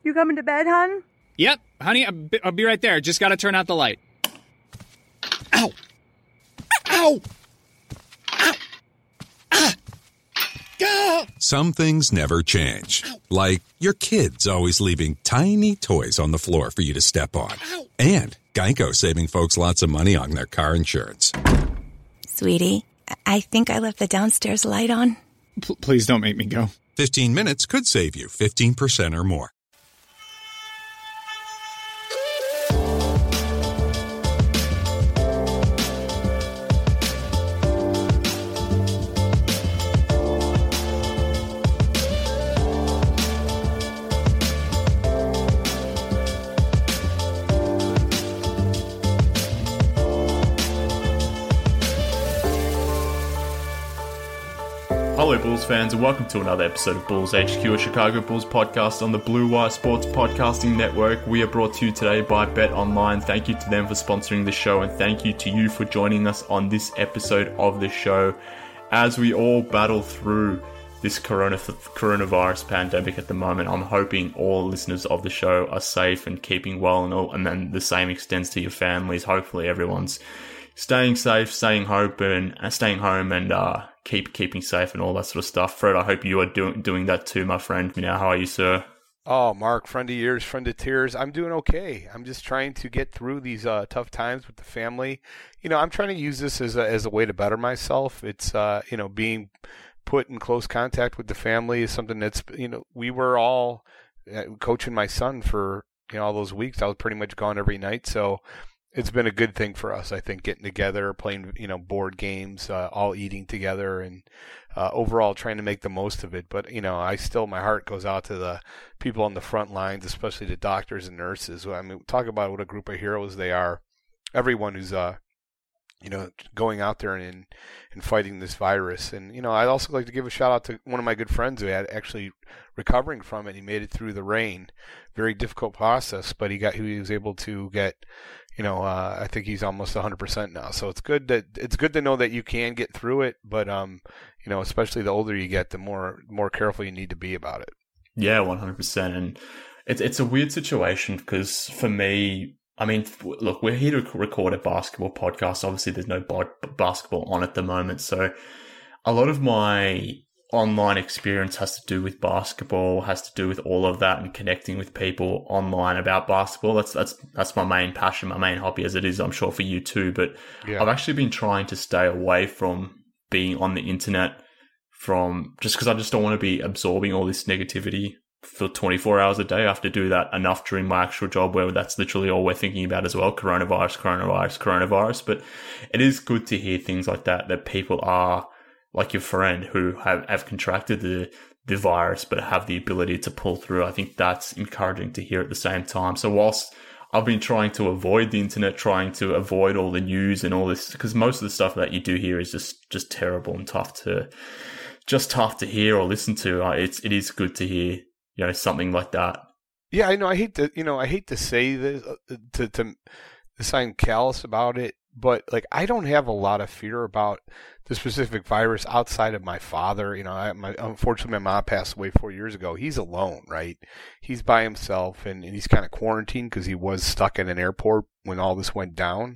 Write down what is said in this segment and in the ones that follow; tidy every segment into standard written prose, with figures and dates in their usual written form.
You coming to bed, hon? Yep, honey, I'll be right there. Just gotta turn out the light. Ow! Ow! Ow! Ah! Ah! Some things never change. Like your kids always leaving tiny toys on the floor for you to step on. And Geico saving folks lots of money on their car insurance. Sweetie, I think I left the downstairs light on. Please don't make me go. 15 minutes could save you 15% or more. Hello Bulls fans and welcome to another episode of Bulls HQ, a Chicago Bulls podcast on the Blue Wire Sports Podcasting Network. We are brought to you today by Bet Online. Thank you to them for sponsoring the show and thank you to you for joining us on this episode of the show as we all battle through this coronavirus pandemic at the moment. I'm hoping all listeners of the show are safe and keeping well and all, and then the same extends to your families. Hopefully everyone's staying safe, staying home and keeping safe and all that sort of stuff. Fred, I hope you are doing that too, my friend. Now, how are you, sir? Oh, Mark, friend of yours, friend of tears. I'm doing okay. I'm just trying to get through these tough times with the family. You know, I'm trying to use this as a way to better myself. It's, being put in close contact with the family is something that's, we were all coaching my son for, all those weeks. I was pretty much gone every night. So it's been a good thing for us, I think, getting together, playing, board games, all eating together, and overall trying to make the most of it. But, my heart goes out to the people on the front lines, especially the doctors and nurses. I mean, talk about what a group of heroes they are. Everyone who's, going out there and fighting this virus. And, I'd also like to give a shout out to one of my good friends who had actually recovering from it. He made it through the rain. Very difficult process, but he was able to get, I think he's almost 100% now. So it's good to know that you can get through it, but especially the older you get, the more careful you need to be about it. Yeah, 100%. And it's a weird situation because for me, I mean, look, we're here to record a basketball podcast. Obviously, there's no basketball on at the moment, so a lot of my online experience has to do with basketball, has to do with all of that and connecting with people online about basketball. That's my main passion, my main hobby, as it is, I'm sure, for you too. But yeah. I've actually been trying to stay away from being on the internet just because I just don't want to be absorbing all this negativity for 24 hours a day. I have to do that enough during my actual job where that's literally all we're thinking about as well. Coronavirus. But it is good to hear things like that people are like your friend who have contracted the virus but have the ability to pull through. I think that's encouraging to hear at the same time. So whilst I've been trying to avoid the internet, trying to avoid all the news and all this, because most of the stuff that you do hear is just terrible and tough to hear or listen to. It is good to hear, something like that. Yeah, I know. I hate to say this, to sound callous about it, but I don't have a lot of fear about the specific virus outside of my father. Unfortunately, my mom passed away 4 years ago. He's alone, right? He's by himself, and he's kind of quarantined because he was stuck in an airport when all this went down.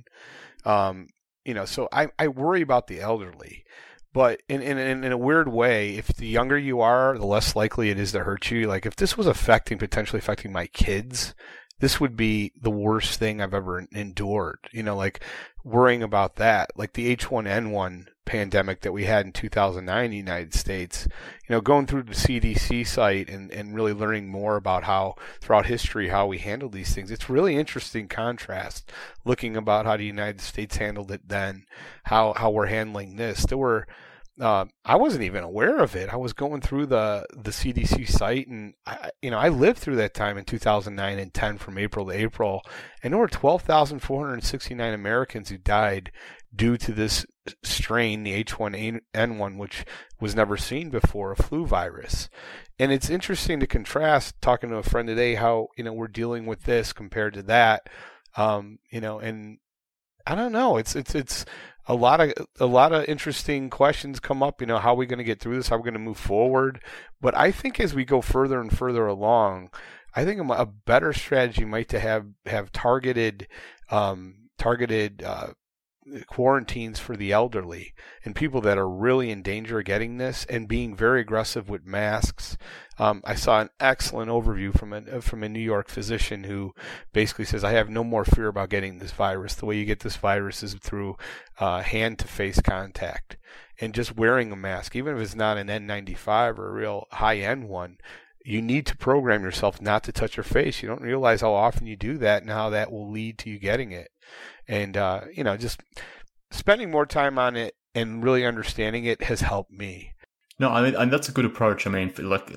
So I worry about the elderly. But in a weird way, if the younger you are, the less likely it is to hurt you. Like if this was potentially affecting my kids, this would be the worst thing I've ever endured. Worrying about that, like the H1N1 pandemic that we had in 2009 in the United States, going through the CDC site and really learning more about how throughout history, how we handled these things. It's really interesting contrast looking about how the United States handled it then, how we're handling this. There were, I wasn't even aware of it. I was going through the CDC site, and I lived through that time in 2009 and 10 from April to April, and there were 12,469 Americans who died due to this strain, the H1N1, which was never seen before, a flu virus. And it's interesting to contrast, talking to a friend today, how we're dealing with this compared to that. And I don't know. It's a lot of interesting questions come up. How are we going to get through this? How are we going to move forward? But I think as we go further and further along, I think a better strategy might to have targeted quarantines for the elderly and people that are really in danger of getting this, and being very aggressive with masks. I saw an excellent overview from a New York physician who basically says, I have no more fear about getting this virus. The way you get this virus is through hand-to-face contact. And just wearing a mask, even if it's not an N95 or a real high-end one, you need to program yourself not to touch your face. You don't realize how often you do that and how that will lead to you getting it. And, just spending more time on it and really understanding it has helped me. No, I mean, and that's a good approach. I mean,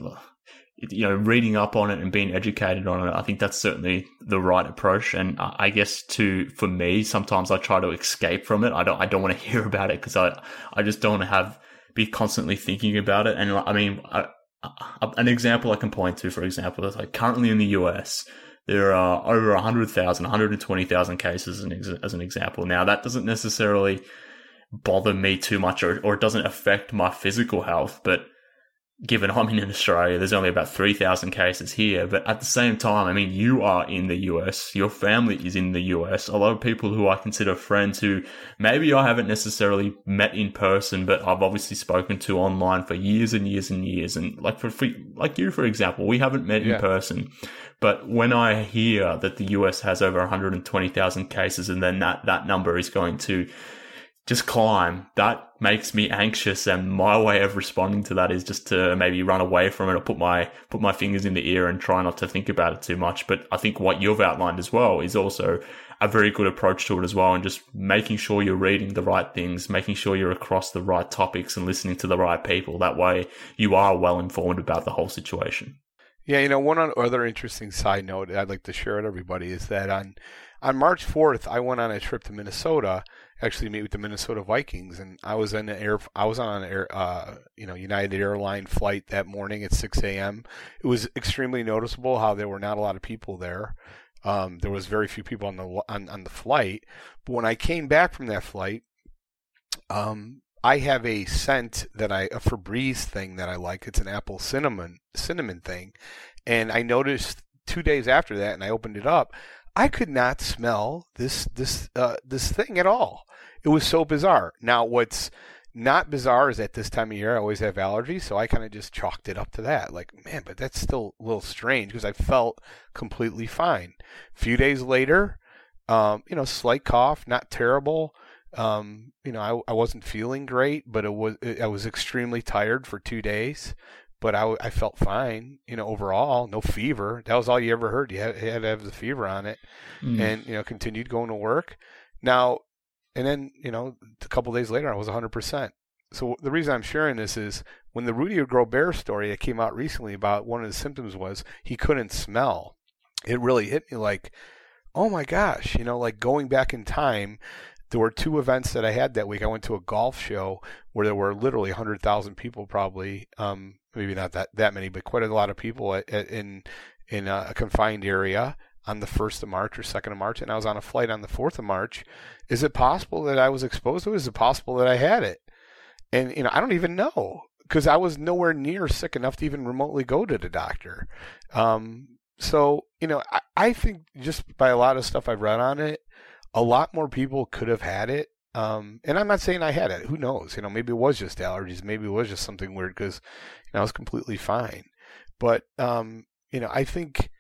reading up on it and being educated on it, I think that's certainly the right approach. And I guess for me, sometimes I try to escape from it. I don't want to hear about it because I just don't want to be constantly thinking about it. And I mean, an example I can point to, for example, is like currently in the US, there are over 100,000, 120,000 cases as an example. Now, that doesn't necessarily bother me too much, or it doesn't affect my physical health, but given I'm in Australia, there's only about 3,000 cases here. But at the same time, I mean, you are in the US, your family is in the US. A lot of people who I consider friends who maybe I haven't necessarily met in person, but I've obviously spoken to online for years and years and years. And like you, for example, we haven't met in person. But when I hear that the US has over 120,000 cases and then that number is going to just climb, that makes me anxious, and my way of responding to that is just to maybe run away from it or put my fingers in the ear and try not to think about it too much. But I think what you've outlined as well is also a very good approach to it as well, and just making sure you're reading the right things, making sure you're across the right topics and listening to the right people. That way you are well informed about the whole situation. Yeah, one other interesting side note I'd like to share with everybody is that on March 4th, I went on a trip to Minnesota, actually to meet with the Minnesota Vikings, and I was on an United Airline flight that morning at 6 a.m. It was extremely noticeable how there were not a lot of people there. There was very few people on the flight. But when I came back from that flight, I have a scent a Febreze thing that I like. It's an apple cinnamon thing, and I noticed 2 days after that, and I opened it up, I could not smell this thing at all. It was so bizarre. Now, what's not bizarre is at this time of year I always have allergies, so I kind of just chalked it up to that. Like, man, but that's still a little strange because I felt completely fine. A few days later, slight cough, not terrible. I wasn't feeling great, but I was extremely tired for 2 days. But I felt fine, overall, no fever. That was all you ever heard. You had to have the fever on it, and continued going to work. Now, and then a couple of days later, I was 100%. So the reason I'm sharing this is when the Rudy Gobert story that came out recently about one of the symptoms was he couldn't smell. It really hit me like, oh my gosh, like going back in time. There were two events that I had that week. I went to a golf show where there were literally 100,000 people, probably, maybe not that many, but quite a lot of people in a confined area on the 1st of March or 2nd of March, and I was on a flight on the 4th of March. Is it possible that I was exposed to it? Is it possible that I had it? And, I don't even know because I was nowhere near sick enough to even remotely go to the doctor. So, I think just by a lot of stuff I've read on it, a lot more people could have had it. And I'm not saying I had it. Who knows? Maybe it was just allergies. Maybe it was just something weird because I was completely fine. But, I think,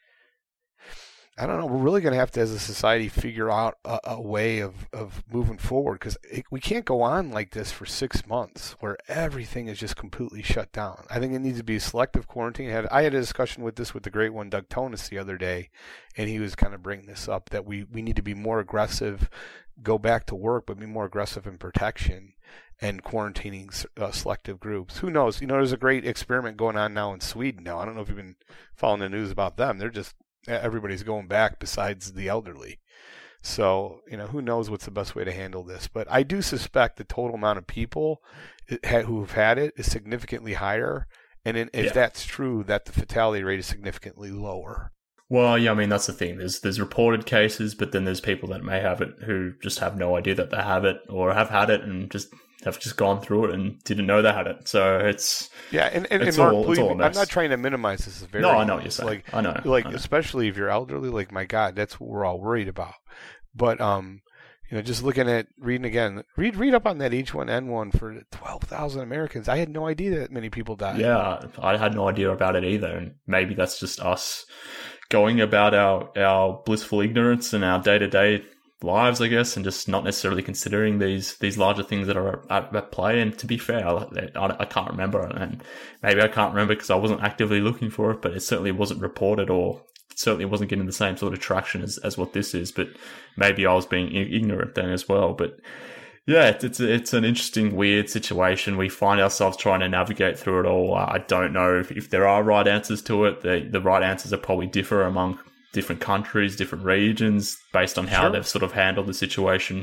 I don't know, we're really going to have to, as a society, figure out a way of moving forward because we can't go on like this for 6 months where everything is just completely shut down. I think it needs to be a selective quarantine. I had a discussion with the great one, Doug Tonis, the other day, and he was kind of bringing this up that we need to be more aggressive, go back to work, but be more aggressive in protection and quarantining selective groups. Who knows? There's a great experiment going on now in Sweden now. I don't know if you've been following the news about them. Everybody's going back besides the elderly. So, who knows what's the best way to handle this. But I do suspect the total amount of people who've had it is significantly higher. And if that's true, that the fatality rate is significantly lower. Well, yeah, I mean, that's the thing. There's reported cases, but then there's people that may have it who just have no idea that they have it or have had it and just have just gone through it and didn't know they had it. So it's and it's Mark, all, it's all a mess. I'm not trying to minimize this. Very, no, I know what you're saying. I know. Especially if you're elderly, like my God, that's what we're all worried about. But just reading again, read up on that H1N1 for 12,000 Americans. I had no idea that many people died. Yeah, I had no idea about it either, and maybe that's just us going about our blissful ignorance and our day-to-day lives, I guess, and just not necessarily considering these larger things that are at play. And to be fair, I can't remember, and maybe I can't remember because I wasn't actively looking for it, but it certainly wasn't reported, or certainly wasn't getting the same sort of traction as what this is. But maybe I was being ignorant then as well. But yeah, it's an interesting, weird situation. We find ourselves trying to navigate through it all. I don't know if there are right answers to it. The right answers are probably differ among different countries, different regions, based on how they've sort of handled the situation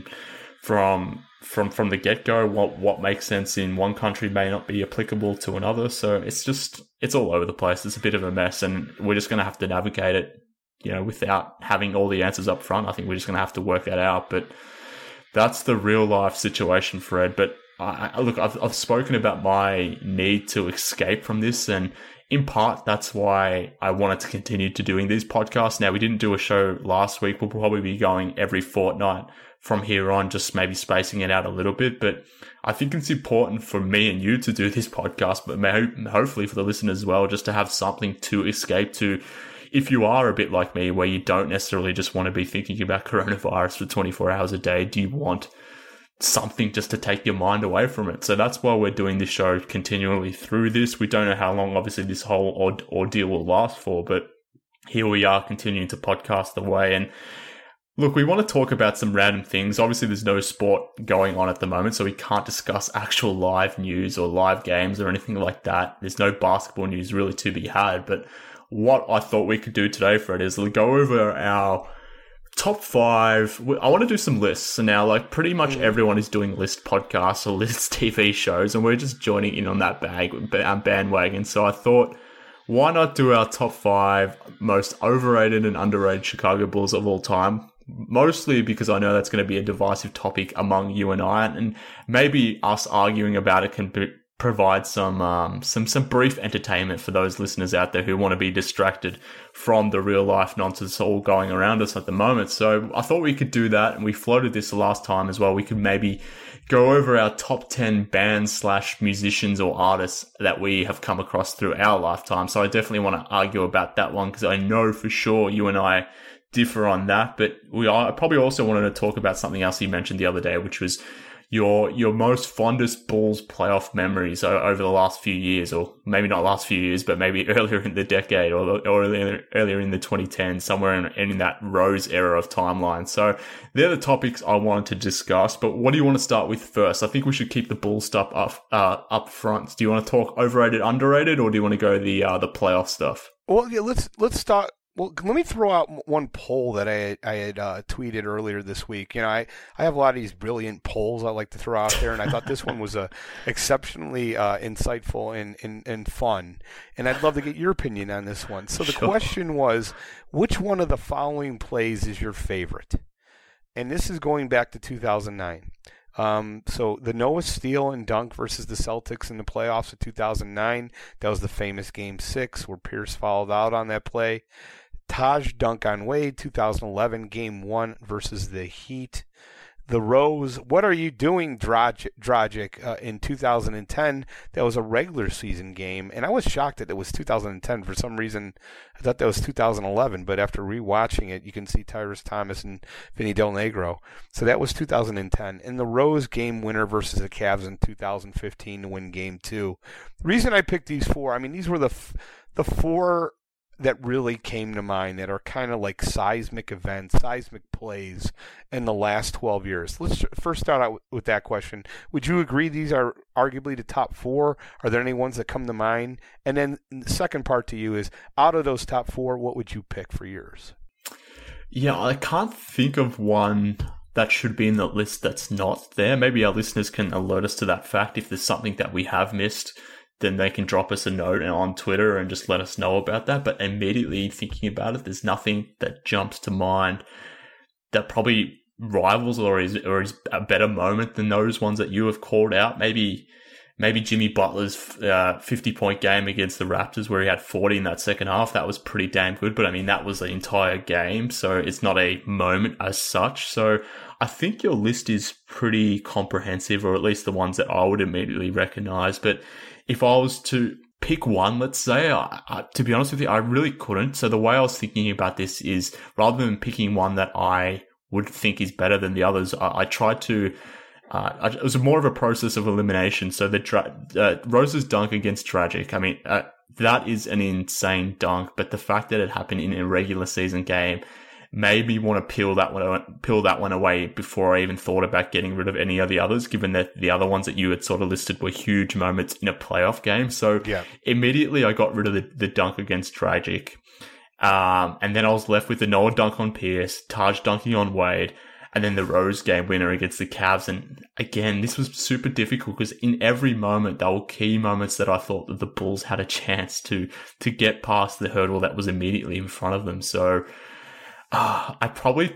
from the get-go. What makes sense in one country may not be applicable to another. So it's all over the place. It's a bit of a mess, and we're just going to have to navigate it, without having all the answers up front. I think we're just going to have to work that out. But that's the real life situation, Fred. But I've spoken about my need to escape from this, and in part, that's why I wanted to continue to doing these podcasts. Now, we didn't do a show last week. We'll probably be going every fortnight from here on, just maybe spacing it out a little bit. But I think it's important for me and you to do this podcast, but hopefully for the listeners as well, just to have something to escape to. If you are a bit like me, where you don't necessarily just want to be thinking about coronavirus for 24 hours a day, do you want something just to take your mind away from it? So that's why we're doing this show continually through this. We don't know how long, obviously, this whole ordeal will last for, but here we are continuing to podcast away. And look, we want to talk about some random things. Obviously, there's no sport going on at the moment, so we can't discuss actual live news or live games or anything like that. There's no basketball news really to be had. But what I thought we could do today, Fred, is go over our top 5. I want to do some lists. So now, pretty much everyone is doing list podcasts or list TV shows, and we're just joining in on that bandwagon. So I thought, why not do our top 5 most overrated and underrated Chicago Bulls of all time? Mostly because I know that's going to be a divisive topic among you and I, and maybe us arguing about it can provide some brief entertainment for those listeners out there who want to be distracted from the real life nonsense all going around us at the moment. So I thought we could do that, and we floated this the last time as well. We could maybe go over our top 10 bands / musicians or artists that we have come across through our lifetime. So I definitely want to argue about that one, because I know for sure you and I differ on that. But I probably also wanted to talk about something else you mentioned the other day, which was your most fondest Bulls playoff memories over the last few years, or maybe not last few years, but maybe earlier in the decade or earlier in the 2010s, somewhere in that Rose era of timeline. So they're the topics I wanted to discuss. But what do you want to start with first? I think we should keep the Bulls stuff up front. Do you want to talk overrated, underrated, or do you want to go the playoff stuff? Well, yeah, let's start. Well, let me throw out one poll that I had tweeted earlier this week. I have a lot of these brilliant polls I like to throw out there, and I thought this one was exceptionally insightful and fun. And I'd love to get your opinion on this one. So the question was, which one of the following plays is your favorite? And this is going back to 2009. So the Noah steal and dunk versus the Celtics in the playoffs of 2009. That was the famous Game 6 where Pierce fouled out on that play. Taj dunk on Wade, 2011, Game 1 versus the Heat. The Rose, what are you doing, Dragic, in 2010? That was a regular season game, and I was shocked that it was 2010. For some reason, I thought that was 2011, but after rewatching it, you can see Tyrese Thomas and Vinny Del Negro. So that was 2010. And the Rose game winner versus the Cavs in 2015 to win Game 2. The reason I picked these 4, these were the 4 that really came to mind that are kind of like seismic events, seismic plays in the last 12 years. Let's first start out with that question. Would you agree these are arguably the top 4? Are there any ones that come to mind? And then the second part to you is, out of those top 4, what would you pick for yours? Yeah, I can't think of one that should be in the list that's not there. Maybe our listeners can alert us to that fact. If there's something that we have missed, then they can drop us a note on Twitter and just let us know about that. But immediately thinking about it, there's nothing that jumps to mind that probably rivals or his a better moment than those ones that you have called out. Maybe Jimmy Butler's 50-point game against the Raptors where he had 40 in that second half. That was pretty damn good. But I mean, that was the entire game. So it's not a moment as such. So I think your list is pretty comprehensive, or at least the ones that I would immediately recognize. But if I was to pick one, let's say, to be honest with you, I really couldn't. So the way I was thinking about this is, rather than picking one that I would think is better than the others, I tried to, it was more of a process of elimination. So the Rose's dunk against Dragic, I mean, that is an insane dunk, but the fact that it happened in a regular season game made me want to peel that one away before I even thought about getting rid of any of the others, given that the other ones that you had sort of listed were huge moments in a playoff game. So immediately I got rid of the dunk against Dragic. And then I was left with the Noah dunk on Pierce, Taj dunking on Wade, and then the Rose game winner against the Cavs. And again, this was super difficult because in every moment, there were key moments that I thought that the Bulls had a chance to get past the hurdle that was immediately in front of them. So I'd probably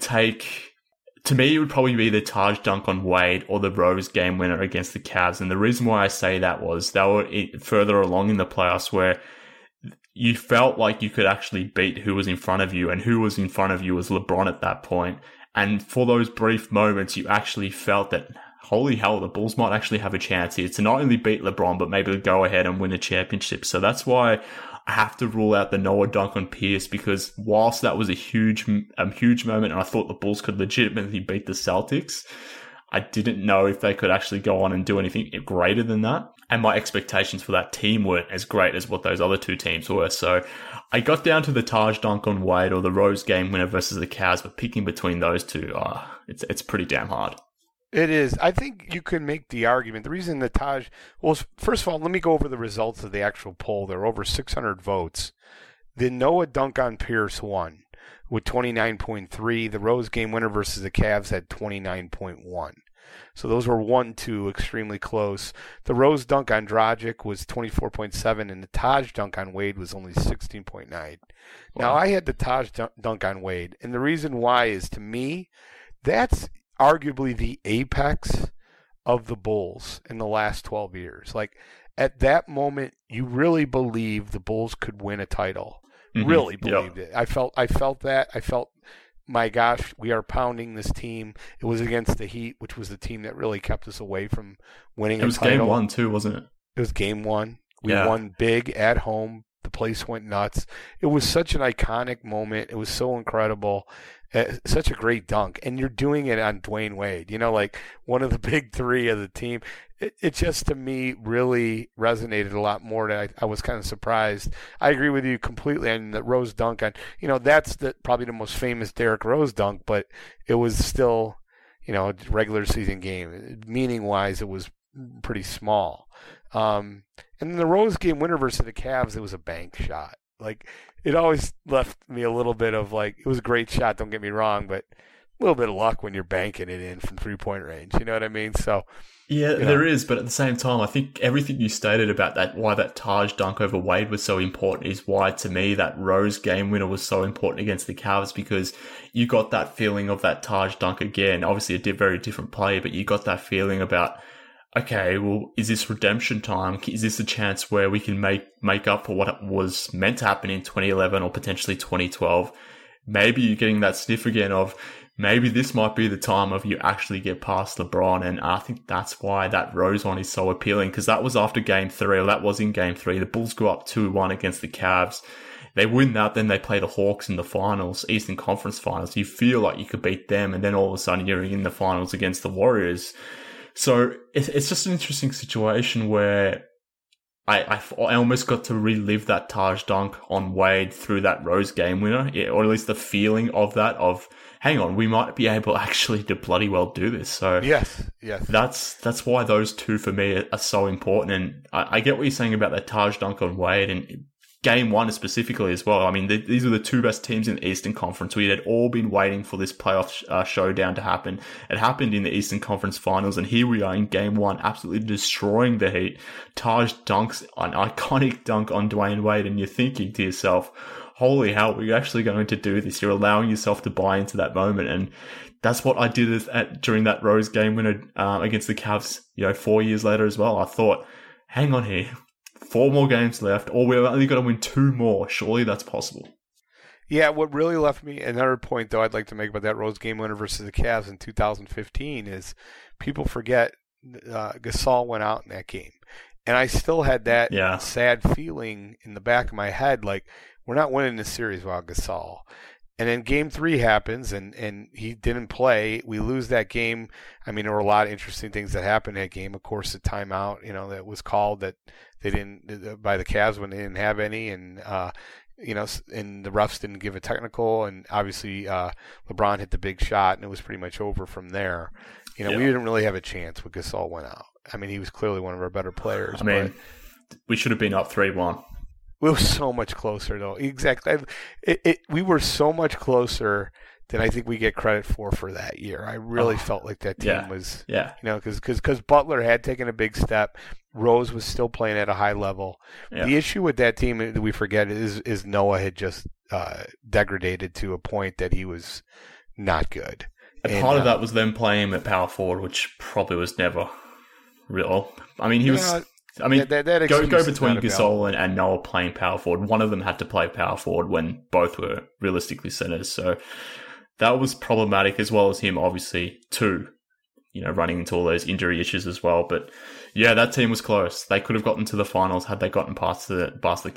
to me, it would probably be the Taj dunk on Wade or the Rose game winner against the Cavs. And the reason why I say that was they were further along in the playoffs where you felt like you could actually beat who was in front of you, and who was in front of you was LeBron at that point. And for those brief moments, you actually felt that, holy hell, the Bulls might actually have a chance here to not only beat LeBron, but maybe go ahead and win a championship. So that's why I have to rule out the Noah dunk on Pierce, because whilst that was a huge moment, and I thought the Bulls could legitimately beat the Celtics, I didn't know if they could actually go on and do anything greater than that. And my expectations for that team weren't as great as what those other two teams were. So I got down to the Taj dunk on Wade or the Rose game winner versus the Cavs, but picking between those two, it's pretty damn hard. It is. I think you can make the argument. The reason the Taj, well, first of all, let me go over the results of the actual poll. There were over 600 votes. The Noah dunk on Pierce won with 29.3. The Rose game winner versus the Cavs had 29.1. So those were 1-2, extremely close. The Rose dunk on Dragic was 24.7, and the Taj dunk on Wade was only 16.9. Wow. Now, I had the Taj dunk on Wade, and the reason why is, to me, that's arguably the apex of the Bulls in the last 12 years. Like, at that moment, you really believed the Bulls could win a title. Mm-hmm. Really believed it. I felt that. I felt, my gosh, we are pounding this team. It was against the Heat, which was the team that really kept us away from winning a title. It was game one, too, wasn't it? It was game one. We won big at home. The place went nuts. It was such an iconic moment. It was so incredible. Such a great dunk. And you're doing it on Dwayne Wade, like one of the big three of the team. It just, to me, really resonated a lot more. That I was kind of surprised. I agree with you completely on the Rose dunk. On, that's probably the most famous Derrick Rose dunk, but it was still, a regular season game. Meaning-wise, it was pretty small. And then the Rose game winner versus the Cavs, it was a bank shot. Like, it always left me a little bit of it was a great shot, don't get me wrong, but a little bit of luck when you're banking it in from 3-point range. You know what I mean? So, yeah, there is, but at the same time, I think everything you stated about that, why that Taj dunk over Wade was so important, is why, to me, that Rose game winner was so important against the Cavs, because you got that feeling of that Taj dunk again. Obviously, a very different play, but you got that feeling about, okay, well, is this redemption time? Is this a chance where we can make up for what was meant to happen in 2011 or potentially 2012? Maybe you're getting that sniff again of, maybe this might be the time of you actually get past LeBron. And I think that's why that Rose one is so appealing, because that was after game 3, or that was in game 3. The Bulls go up 2-1 against the Cavs. They win that, then they play the Hawks in the finals, Eastern Conference finals. You feel like you could beat them, and then all of a sudden you're in the finals against the Warriors. So it's just an interesting situation where I almost got to relive that Taj dunk on Wade through that Rose game winner, or at least the feeling of that, of, hang on, we might be able actually to bloody well do this. So yes. That's why those two for me are so important. And I get what you're saying about that Taj dunk on Wade, and game one specifically as well. I mean, these are the two best teams in the Eastern Conference. We had all been waiting for this playoff showdown to happen. It happened in the Eastern Conference Finals, and here we are in game one, absolutely destroying the Heat. Taj dunks an iconic dunk on Dwayne Wade, and you're thinking to yourself, holy hell, we're actually going to do this. You're allowing yourself to buy into that moment. And that's what I did during that Rose game winner against the Cavs, 4 years later as well. I thought, hang on here, 4 more games left, or we're only going to win 2 more. Surely that's possible. Yeah, what really left me, another point though I'd like to make about that Rose game winner versus the Cavs in 2015 is people forget Gasol went out in that game. And I still had that sad feeling in the back of my head, like, we're not winning this series without Gasol. And then game 3 happens, and he didn't play. We lose that game. I mean, there were a lot of interesting things that happened in that game. Of course, the timeout, that was called that they didn't by the Cavs when they didn't have any, and and the refs didn't give a technical, and obviously LeBron hit the big shot, and it was pretty much over from there. We didn't really have a chance when Gasol went out. I mean, he was clearly one of our better players. I mean, we should have been up 3-1. We were so much closer, though. Exactly. We were so much closer than I think we get credit for that year. I really felt like that team was, because Butler had taken a big step. Rose was still playing at a high level. Yeah. The issue with that team that we forget is Noah had just degraded to a point that he was not good. And part of that was them playing him at power forward, which probably was never real. I mean, he was. I mean, that go between Gasol and Noah playing power forward. One of them had to play power forward when both were realistically centers. So that was problematic, as well as him, obviously, too, running into all those injury issues as well. But yeah, that team was close. They could have gotten to the finals had they gotten past the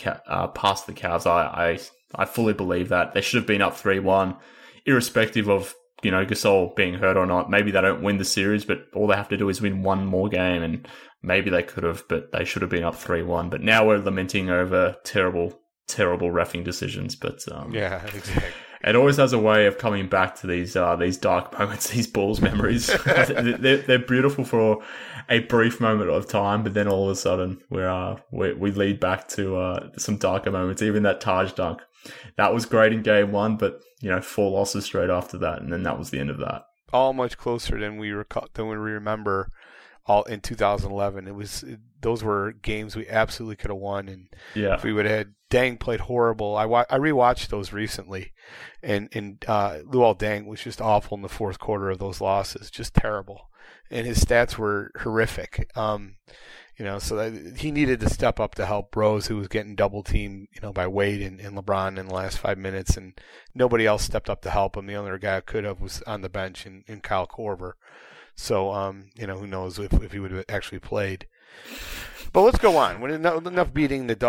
Cavs. I fully believe that. They should have been up 3-1, irrespective of Gasol being hurt or not. Maybe they don't win the series, but all they have to do is win one more game, and maybe they could have, but they should have been up 3-1. But now we're lamenting over terrible, terrible reffing decisions. But yeah, exactly. It always has a way of coming back to these dark moments, these Bulls memories. They're beautiful for a brief moment of time, but then all of a sudden we lead back to some darker moments. Even that Taj dunk, that was great in game 1, but 4 losses straight after that, and then that was the end of that. All much closer than we remember. All in 2011, those were games we absolutely could have won, and if we would have had Deng played horrible. I rewatched those recently, and Luol Deng was just awful in the fourth quarter of those losses, just terrible, and his stats were horrific. So that he needed to step up to help Rose, who was getting double teamed, by Wade and LeBron in the last 5 minutes, and nobody else stepped up to help him. The only guy who could have was on the bench in Kyle Korver. So, who knows if he would have actually played. But let's go on. When enough beating I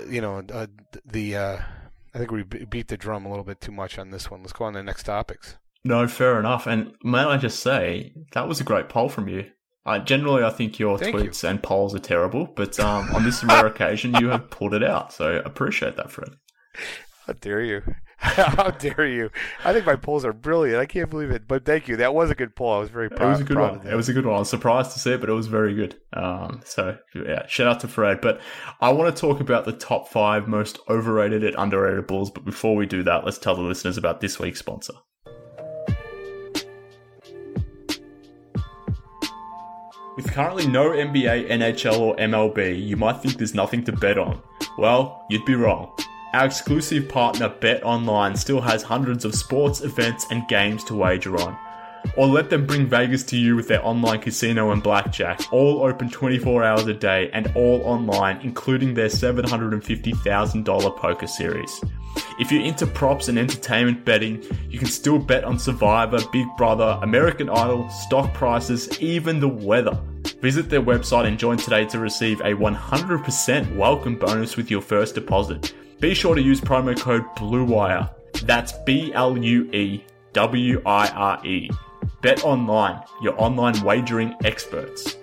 think we beat the drum a little bit too much on this one. Let's go on to the next topics. No, fair enough. And may I just say, that was a great poll from you. Generally, I think your tweets and polls are terrible, but on this rare occasion, you have pulled it out. So appreciate that, Fred. How dare you? How dare you? I think my polls are brilliant. I can't believe it. But thank you. That was a good poll. I was very proud. It was a good one. It was a good one. I was surprised to see it, but it was very good. So, yeah, shout out to Fred. But I want to talk about the top 5 most overrated and underrated Bulls. But before we do that, let's tell the listeners about this week's sponsor. With currently no NBA, NHL, or MLB, you might think there's nothing to bet on. Well, you'd be wrong. Our exclusive partner BetOnline still has hundreds of sports, events, and games to wager on. Or let them bring Vegas to you with their online casino and blackjack, all open 24 hours a day and all online, including their $750,000 poker series. If you're into props and entertainment betting, you can still bet on Survivor, Big Brother, American Idol, stock prices, even the weather. Visit their website and join today to receive a 100% welcome bonus with your first deposit. Be sure to use promo code BLUEWIRE. That's BLUEWIRE. Bet Online, your online wagering experts.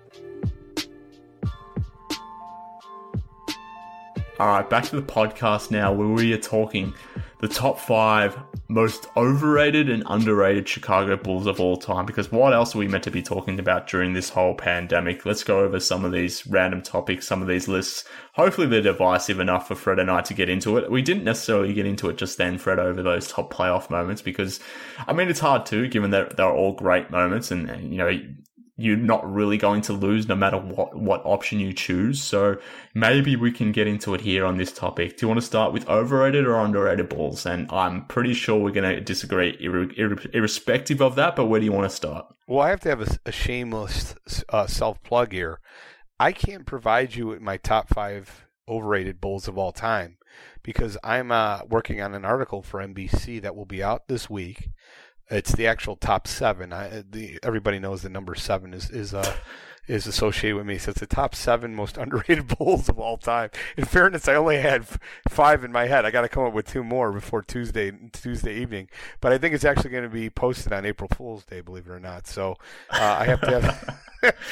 Alright, back to the podcast now, where we are talking the top 5 most overrated and underrated Chicago Bulls of all time. Because what else are we meant to be talking about during this whole pandemic? Let's go over some of these random topics, some of these lists. Hopefully they're divisive enough for Fred and I to get into it. We didn't necessarily get into it just then, Fred, over those top playoff moments, because, I mean, it's hard to, given that they're all great moments, and you're not really going to lose no matter what option you choose. So maybe we can get into it here on this topic. Do you want to start with overrated or underrated balls? And I'm pretty sure we're going to disagree irrespective of that, but where do you want to start? Well, I have to have a shameless self-plug here. I can't provide you with my top 5 overrated bulls of all time because I'm working on an article for NBC that will be out this week. It's the actual top 7. Everybody knows the number 7 is associated with me. So it's the top 7 most underrated bulls of all time. In fairness, I only had 5 in my head. I got to come up with 2 more before Tuesday evening. But I think it's actually going to be posted on April Fool's Day, believe it or not. So I have to have.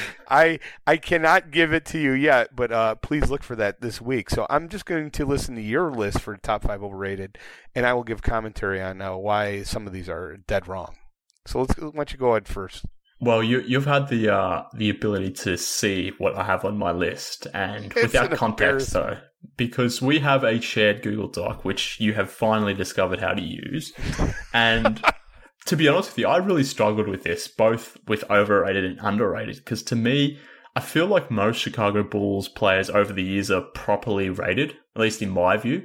I cannot give it to you yet, but please look for that this week. So I'm just going to listen to your list for top 5 overrated, and I will give commentary on why some of these are dead wrong. So why don't you go ahead first? Well, you've had the ability to see what I have on my list, and without context though, because we have a shared Google Doc which you have finally discovered how to use, and to be honest with you, I really struggled with this, both with overrated and underrated, because to me, I feel like most Chicago Bulls players over the years are properly rated, at least in my view.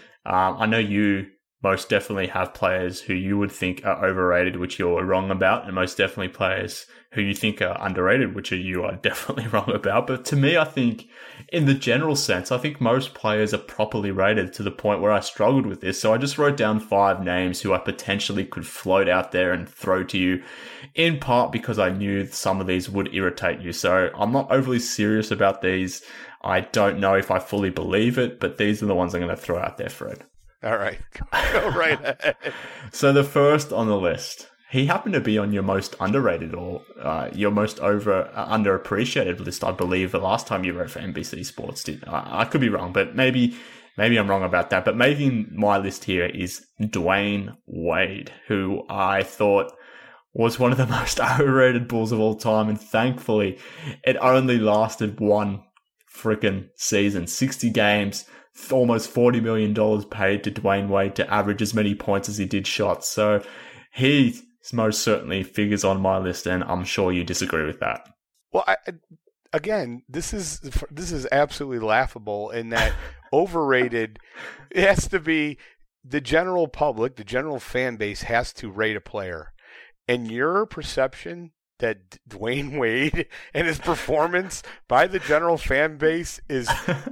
I know you most definitely have players who you would think are overrated, which you're wrong about, and most definitely players who you think are underrated, which you are definitely wrong about. But to me, I think in the general sense, I think most players are properly rated to the point where I struggled with this. So I just wrote down 5 names who I potentially could float out there and throw to you, in part because I knew some of these would irritate you. So I'm not overly serious about these. I don't know if I fully believe it, but these are the ones I'm going to throw out there, Fred. All right. Go right ahead. So the first on the list, he happened to be on your most underrated or your most underappreciated list, I believe, the last time you wrote for NBC Sports. I could be wrong, but maybe I'm wrong about that. But making my list here is Dwayne Wade, who I thought was one of the most overrated Bulls of all time. And thankfully, it only lasted one freaking season, 60 games. Almost $40 million paid to Dwayne Wade to average as many points as he did shots. So he most certainly figures on my list, and I'm sure you disagree with that. Well, again, this is absolutely laughable in that overrated. It has to be the general public, the general fan base has to rate a player, and your perception that Dwayne Wade and his performance by the general fan base is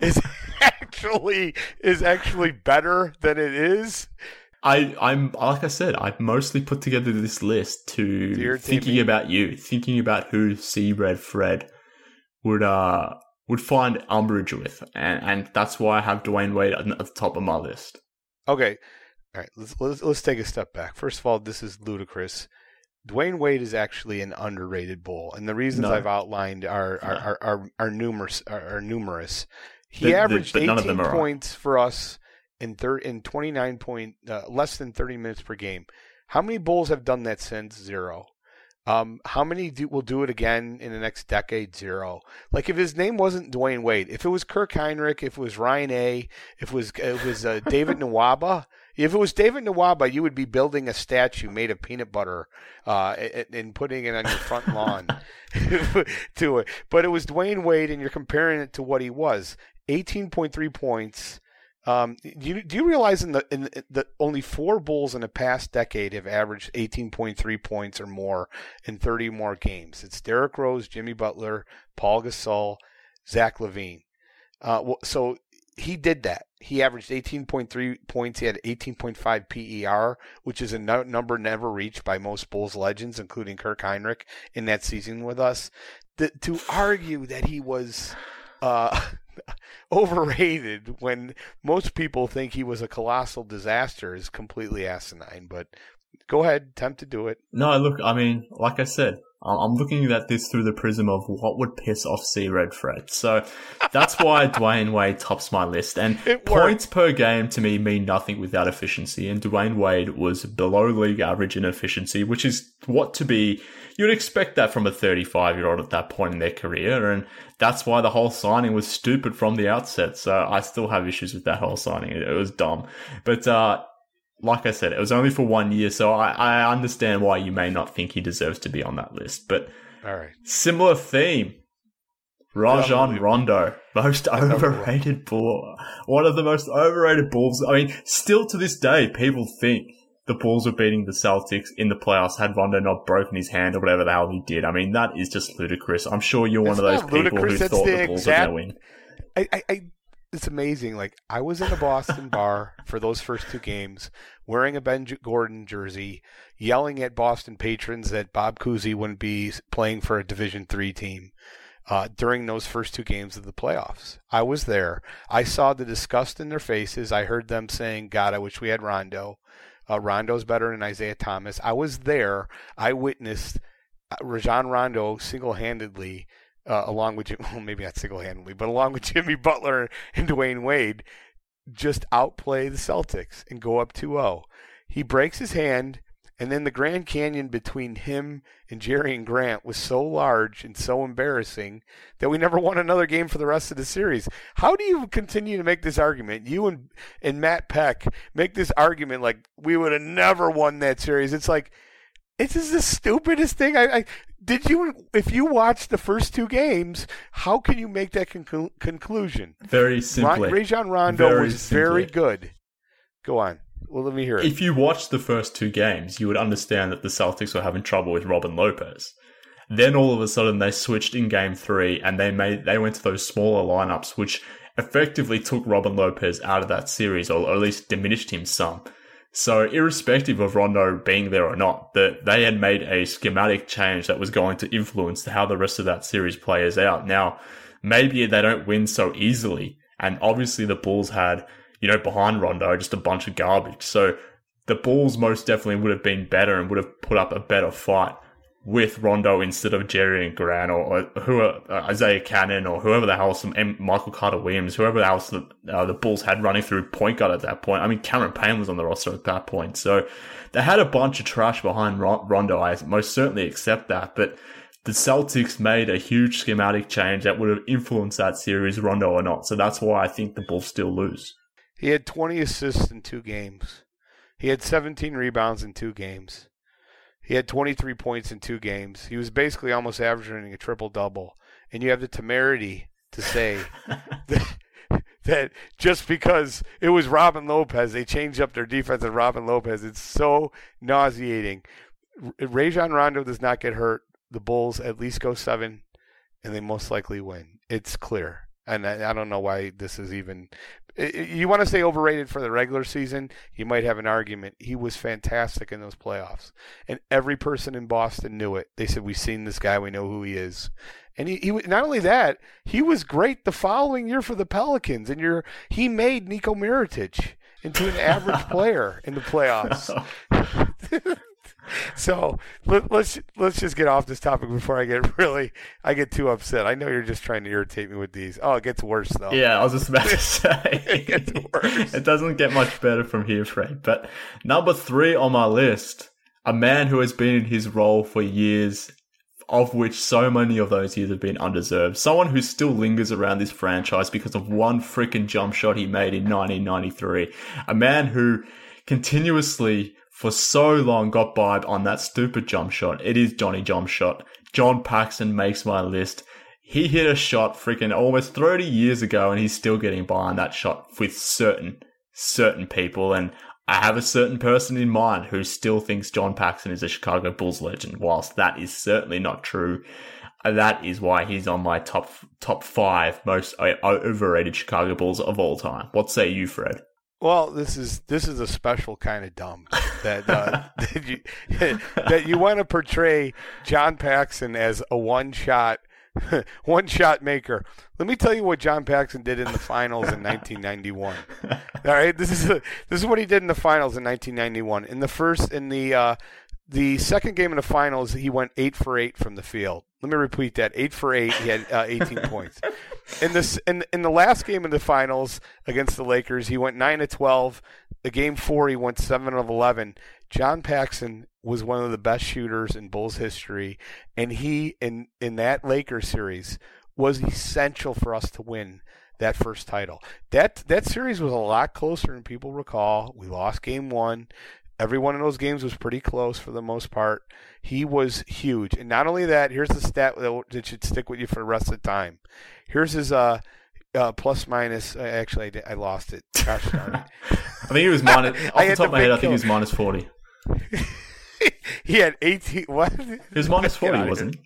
actually better than it is. I'm like I said, I mostly put together this list to thinking about you, thinking about who C-Red Fred would find umbrage with, and that's why I have Dwayne Wade at the top of my list. Okay, all right, let's take a step back. First of all, this is ludicrous. Dwayne Wade is actually an underrated Bull, and the reasons I've outlined are numerous. He averaged 18 points for us in 29 less than 30 minutes per game. How many Bulls have done that since? 0. How many will do it again in the next decade? 0. Like, if his name wasn't Dwayne Wade, if it was Kirk Heinrich, if it was Ryan A., if it was David Nwaba. If it was David Nwaba, you would be building a statue made of peanut butter and putting it on your front lawn to it. But it was Dwayne Wade, and you're comparing it to what he was. 18.3 points. Do you realize in the only 4 Bulls in the past decade have averaged 18.3 points or more in 30 more games? It's Derrick Rose, Jimmy Butler, Paul Gasol, Zach LaVine. So he did that. He averaged 18.3 points. He had 18.5 PER, which is a number never reached by most Bulls legends, including Kirk Heinrich, in that season with us. To argue that he was overrated when most people think he was a colossal disaster is completely asinine. But go ahead, attempt to do it. No, look, I mean, like I said, I'm looking at this through the prism of what would piss off C-Red Fred. So that's why Dwayne Wade tops my list. And points per game to me mean nothing without efficiency. And Dwayne Wade was below league average in efficiency, which is you'd expect that from a 35-year-old at that point in their career. And that's why the whole signing was stupid from the outset. So I still have issues with that whole signing. It was dumb. But, like I said, it was only for 1 year, so I understand why you may not think he deserves to be on that list. But All right. Similar theme. Rajon Rondo, most overrated Bull. One of the most overrated Bulls. I mean, still to this day, people think the Bulls were beating the Celtics in the playoffs had Rondo not broken his hand or whatever the hell he did. I mean, that is just ludicrous. I'm sure you're one of those people who thought the Bulls were going to win. It's amazing. Like, I was in a Boston bar for those first two games, wearing a Ben Gordon jersey, yelling at Boston patrons that Bob Cousy wouldn't be playing for a Division III team during those first two games of the playoffs. I was there. I saw the disgust in their faces. I heard them saying, God, I wish we had Rondo. Rondo's better than Isaiah Thomas. I was there. I witnessed Rajon Rondo single-handedly along with, well, maybe not single-handedly, but along with Jimmy Butler and Dwayne Wade, just outplay the Celtics and go up 2-0. He breaks his hand, and then the Grand Canyon between him and Jerry Grant was so large and so embarrassing that we never won another game for the rest of the series. How do you continue to make this argument? You and Matt Peck make this argument like we would have never won that series. It's like, it's just the stupidest thing. If you watched the first two games, how can you make that conclusion? Very simply. Rajon Rondo was very good. Go on. Well, let me hear it. If you watched the first two games, you would understand that the Celtics were having trouble with Robin Lopez. Then all of a sudden they switched in game 3 and they went to those smaller lineups, which effectively took Robin Lopez out of that series, or at least diminished him some. So irrespective of Rondo being there or not, they had made a schematic change that was going to influence how the rest of that series plays out. Now, maybe they don't win so easily, and obviously the Bulls had, behind Rondo, just a bunch of garbage. So the Bulls most definitely would have been better and would have put up a better fight with Rondo instead of Jerry and Grant or Isaiah Cannon or whoever the hell, Michael Carter-Williams, whoever else the Bulls had running through point guard at that point. I mean, Cameron Payne was on the roster at that point. So they had a bunch of trash behind Rondo. I most certainly accept that. But the Celtics made a huge schematic change that would have influenced that series, Rondo or not. So that's why I think the Bulls still lose. He had 20 assists in 2 games. He had 17 rebounds in 2 games. He had 23 points in 2 games. He was basically almost averaging a triple-double. And you have the temerity to say that just because it was Robin Lopez, they changed up their defense and Robin Lopez. It's so nauseating. Rajon Rondo does not get hurt. The Bulls at least go 7, and they most likely win. It's clear. And I don't know why this is even... You want to say overrated for the regular season, you might have an argument. He was fantastic in those playoffs. And every person in Boston knew it. They said, we've seen this guy, we know who he is. And he not only that, he was great the following year for the Pelicans. And he made Niko Mirotic into an average player in the playoffs. So let's just get off this topic before I get too upset. I know you're just trying to irritate me with these. Oh, it gets worse though. Yeah, I was just about to say it gets worse. It doesn't get much better from here, Fred. But number 3 on my list, a man who has been in his role for years, of which so many of those years have been undeserved. Someone who still lingers around this franchise because of one freaking jump shot he made in 1993. A man who continuously for so long got by on that stupid jump shot. It is Johnny Jump Shot. John Paxson makes my list. He hit a shot freaking almost 30 years ago, and he's still getting by on that shot with certain people. And I have a certain person in mind who still thinks John Paxson is a Chicago Bulls legend, whilst that is certainly not true. That is why he's on my top 5 most overrated Chicago Bulls of all time. What say you, Fred? Well, this is a special kind of dumb that that you want to portray John Paxson as a one shot maker. Let me tell you what John Paxson did in the finals in 1991. All right, this is what he did in the finals in 1991. The second game in the finals, he went 8 for 8 from the field. Let me repeat that: 8 for 8. He had 18 points. In the last game of the finals against the Lakers, he went 9 of 12. The game 4, he went 7 of 11. John Paxson was one of the best shooters in Bulls history, and he in that Lakers series was essential for us to win that first title. That series was a lot closer than people recall. We lost game 1. Every one of those games was pretty close for the most part. He was huge. And not only that, here's the stat that should stick with you for the rest of the time. Here's his plus minus. Actually, I lost it. Gosh darn it. I think he was minus. Off the top of my head, I think he was minus 40. He had 18. What? He was minus 40, wasn't he?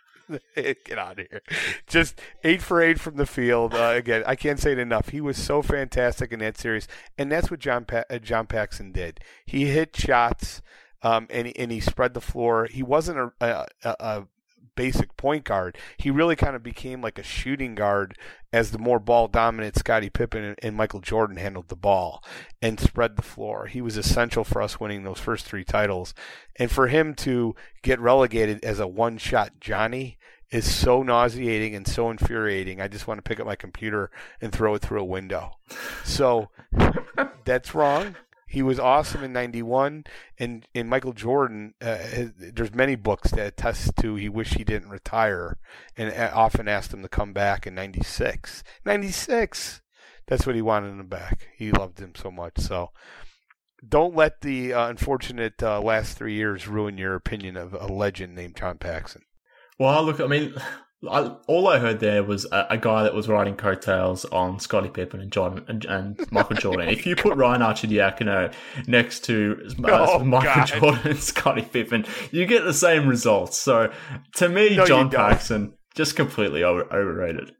Get out of here. Just 8 for 8 from the field. Again, I can't say it enough. He was so fantastic in that series. And that's what John Paxson did. He hit shots, and he spread the floor. He wasn't a basic point guard. He really kind of became like a shooting guard as the more ball-dominant Scottie Pippen and Michael Jordan handled the ball and spread the floor. He was essential for us winning those first 3 titles. And for him to get relegated as a one-shot Johnny is so nauseating and so infuriating. I just want to pick up my computer and throw it through a window. So that's wrong. He was awesome in 91, and Michael Jordan, there's many books that attest to he wished he didn't retire and often asked him to come back in 96. 96! That's what he wanted him back. He loved him so much. So don't let the unfortunate last 3 years ruin your opinion of a legend named John Paxson. Well, look, I mean, all I heard there was a guy that was riding coattails on Scottie Pippen and Michael Jordan. If you put Ryan Arcidiacono next to Michael Jordan and Scottie Pippen, you get the same results. So, to me, John Paxson, just completely overrated.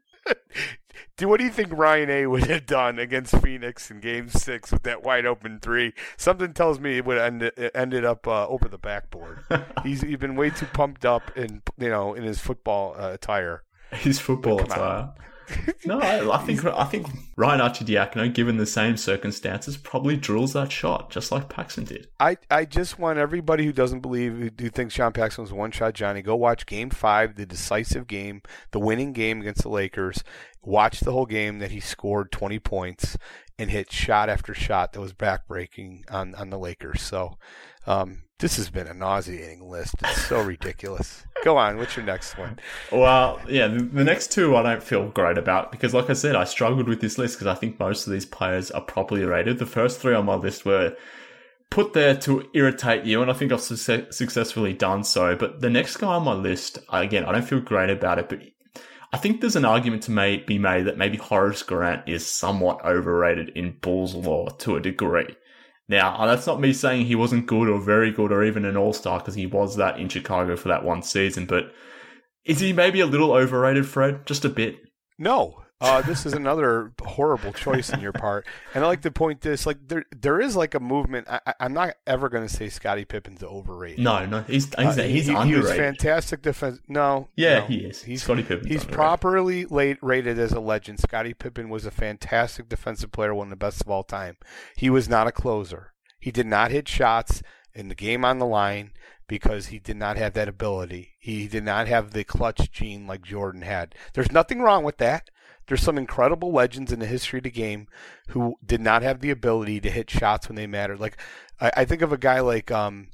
What do you think Ryan A. would have done against Phoenix in Game 6 with that wide open 3? Something tells me it would have ended up over the backboard. He's been way too pumped up in his football attire. His football attire. No, I think Ryan Arcidiacono, given the same circumstances, probably drills that shot just like Paxson did. I just want everybody who doesn't believe, who thinks John Paxson was a one-shot Johnny, go watch Game 5, the decisive game, the winning game against the Lakers. Watch the whole game that he scored 20 points and hit shot after shot that was backbreaking on the Lakers. So this has been a nauseating list. It's so ridiculous. Go on. What's your next one? Well, yeah, the next 2 I don't feel great about because, like I said, I struggled with this list because I think most of these players are properly rated. The first 3 on my list were put there to irritate you, and I think I've successfully done so. But the next guy on my list, again, I don't feel great about it, but I think there's an argument to be made that maybe Horace Grant is somewhat overrated in Bulls lore to a degree. Now, that's not me saying he wasn't good or very good or even an all-star because he was that in Chicago for that one season, but is he maybe a little overrated, Fred? Just a bit? No. This is another horrible choice on your part. And I like to point this, like there is like a movement. I'm not ever going to say Scottie Pippen's overrated. No, he's underrated. He was fantastic defense. No. He is. Scottie Pippen. He's properly rated as a legend. Scottie Pippen was a fantastic defensive player, one of the best of all time. He was not a closer. He did not hit shots in the game on the line because he did not have that ability. He did not have the clutch gene like Jordan had. There's nothing wrong with that. There's some incredible legends in the history of the game who did not have the ability to hit shots when they mattered. Like I think of a guy like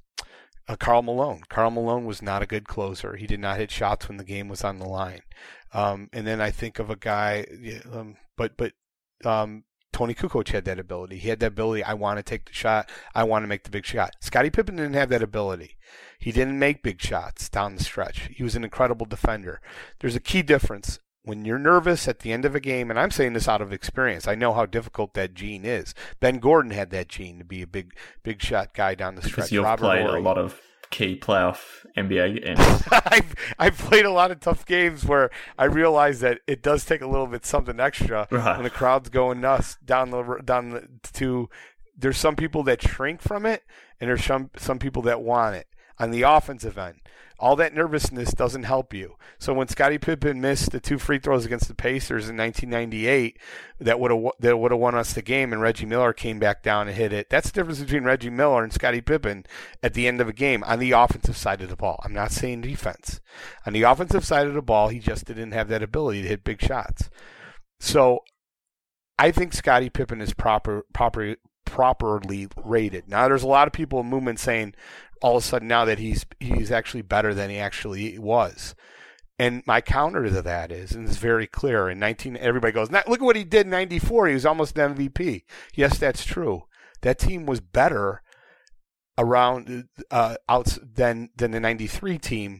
Karl Malone. Karl Malone was not a good closer. He did not hit shots when the game was on the line. And then I think of a guy, Tony Kukoc had that ability. He had that ability. I want to take the shot. I want to make the big shot. Scottie Pippen didn't have that ability. He didn't make big shots down the stretch. He was an incredible defender. There's a key difference. When you're nervous at the end of a game, and I'm saying this out of experience, I know how difficult that gene is. Ben Gordon had that gene to be a big shot guy down the stretch. Because you've played a lot of key playoff NBA games. I've played a lot of tough games where I realize that it does take a little bit something extra when the crowd's going nuts there's some people that shrink from it, and there's some people that want it. On the offensive end, all that nervousness doesn't help you. So when Scottie Pippen missed the 2 free throws against the Pacers in 1998 that would have won us the game, and Reggie Miller came back down and hit it, that's the difference between Reggie Miller and Scottie Pippen at the end of a game on the offensive side of the ball. I'm not saying defense. On the offensive side of the ball, he just didn't have that ability to hit big shots. So I think Scottie Pippen is properly rated. Now, there's a lot of people in movement saying all of a sudden now that he's actually better than he actually was. And my counter to that is, and it's very clear, everybody goes, look at what he did in 94. He was almost an MVP. Yes, that's true. That team was better around than the '93 team.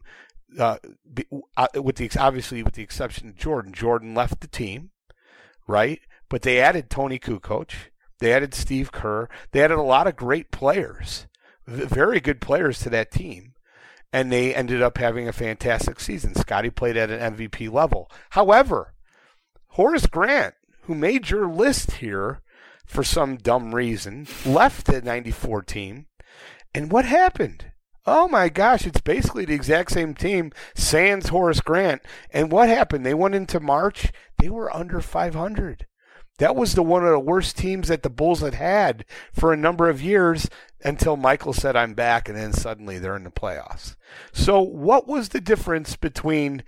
With the exception of Jordan. Jordan left the team, right? But they added Tony Kukoc. They added Steve Kerr. They added a lot of great players, very good players to that team. And they ended up having a fantastic season. Scotty played at an MVP level. However, Horace Grant, who made your list here for some dumb reason, left the '94 team. And what happened? Oh my gosh, it's basically the exact same team, sans Horace Grant. And what happened? They went into March, they were under 500. That was one of the worst teams that the Bulls had for a number of years until Michael said, I'm back, and then suddenly they're in the playoffs. So what was the difference between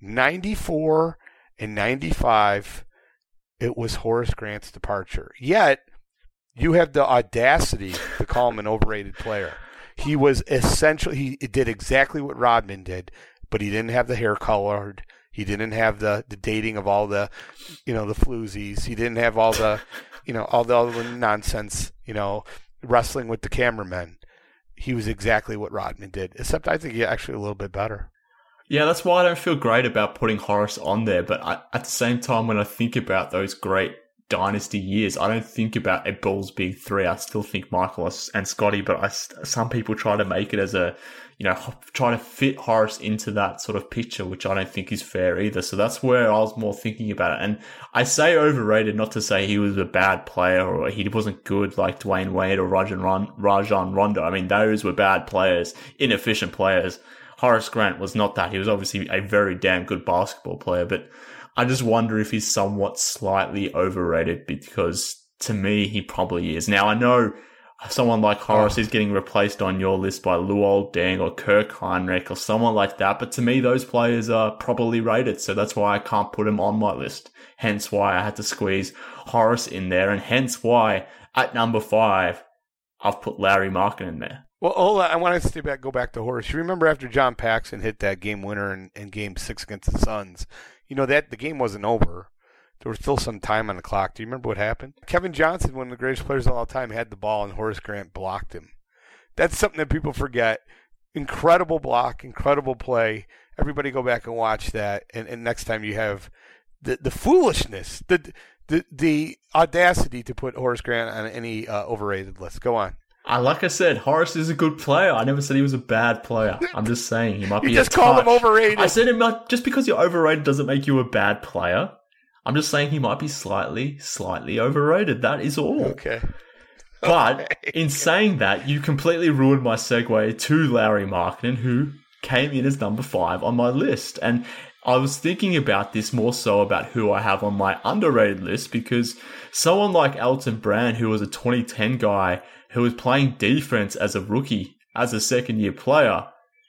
94 and 95? It was Horace Grant's departure. Yet, you have the audacity to call him an overrated player. He was essential. He did exactly what Rodman did, but he didn't have the hair colored. He didn't have the dating of all the, the floozies. He didn't have all the, all the other nonsense, wrestling with the cameramen. He was exactly what Rodman did, except I think he actually a little bit better. Yeah, that's why I don't feel great about putting Horace on there. But at the same time, when I think about those great dynasty years, I don't think about a Bulls big three. I still think Michael and Scotty, but some people try to make it as a, try to fit Horace into that sort of picture, which I don't think is fair either. So that's where I was more thinking about it. And I say overrated, not to say he was a bad player or he wasn't good like Dwayne Wade or Rajon Rondo. I mean, those were bad players, inefficient players. Horace Grant was not that. He was obviously a very damn good basketball player, but I just wonder if he's somewhat slightly overrated, because to me, he probably is. Now, I know someone like Horace is getting replaced on your list by Luol Deng or Kirk Heinrich or someone like that, but to me, those players are properly rated, so that's why I can't put him on my list. Hence why I had to squeeze Horace in there, and hence why at number 5, I've put Larry Markin in there. Well, hold on. I want to go back to Horace. You remember after John Paxson hit that game winner in Game 6 against the Suns, that the game wasn't over. There was still some time on the clock. Do you remember what happened? Kevin Johnson, one of the greatest players of all time, had the ball, and Horace Grant blocked him. That's something that people forget. Incredible block, incredible play. Everybody go back and watch that. And next time you have the foolishness, the audacity to put Horace Grant on any overrated list. Go on. Like I said, Horace is a good player. I never said he was a bad player. I'm just saying he might be. You just called him overrated. I said just because you're overrated doesn't make you a bad player. I'm just saying he might be slightly overrated. That is all. Okay. But in saying that, you completely ruined my segue to Larry Markkinen, who came in as number 5 on my list. And I was thinking about this more so about who I have on my underrated list, because someone like Elton Brand, who was a 2010 guy who was playing defense as a rookie, as a second-year player,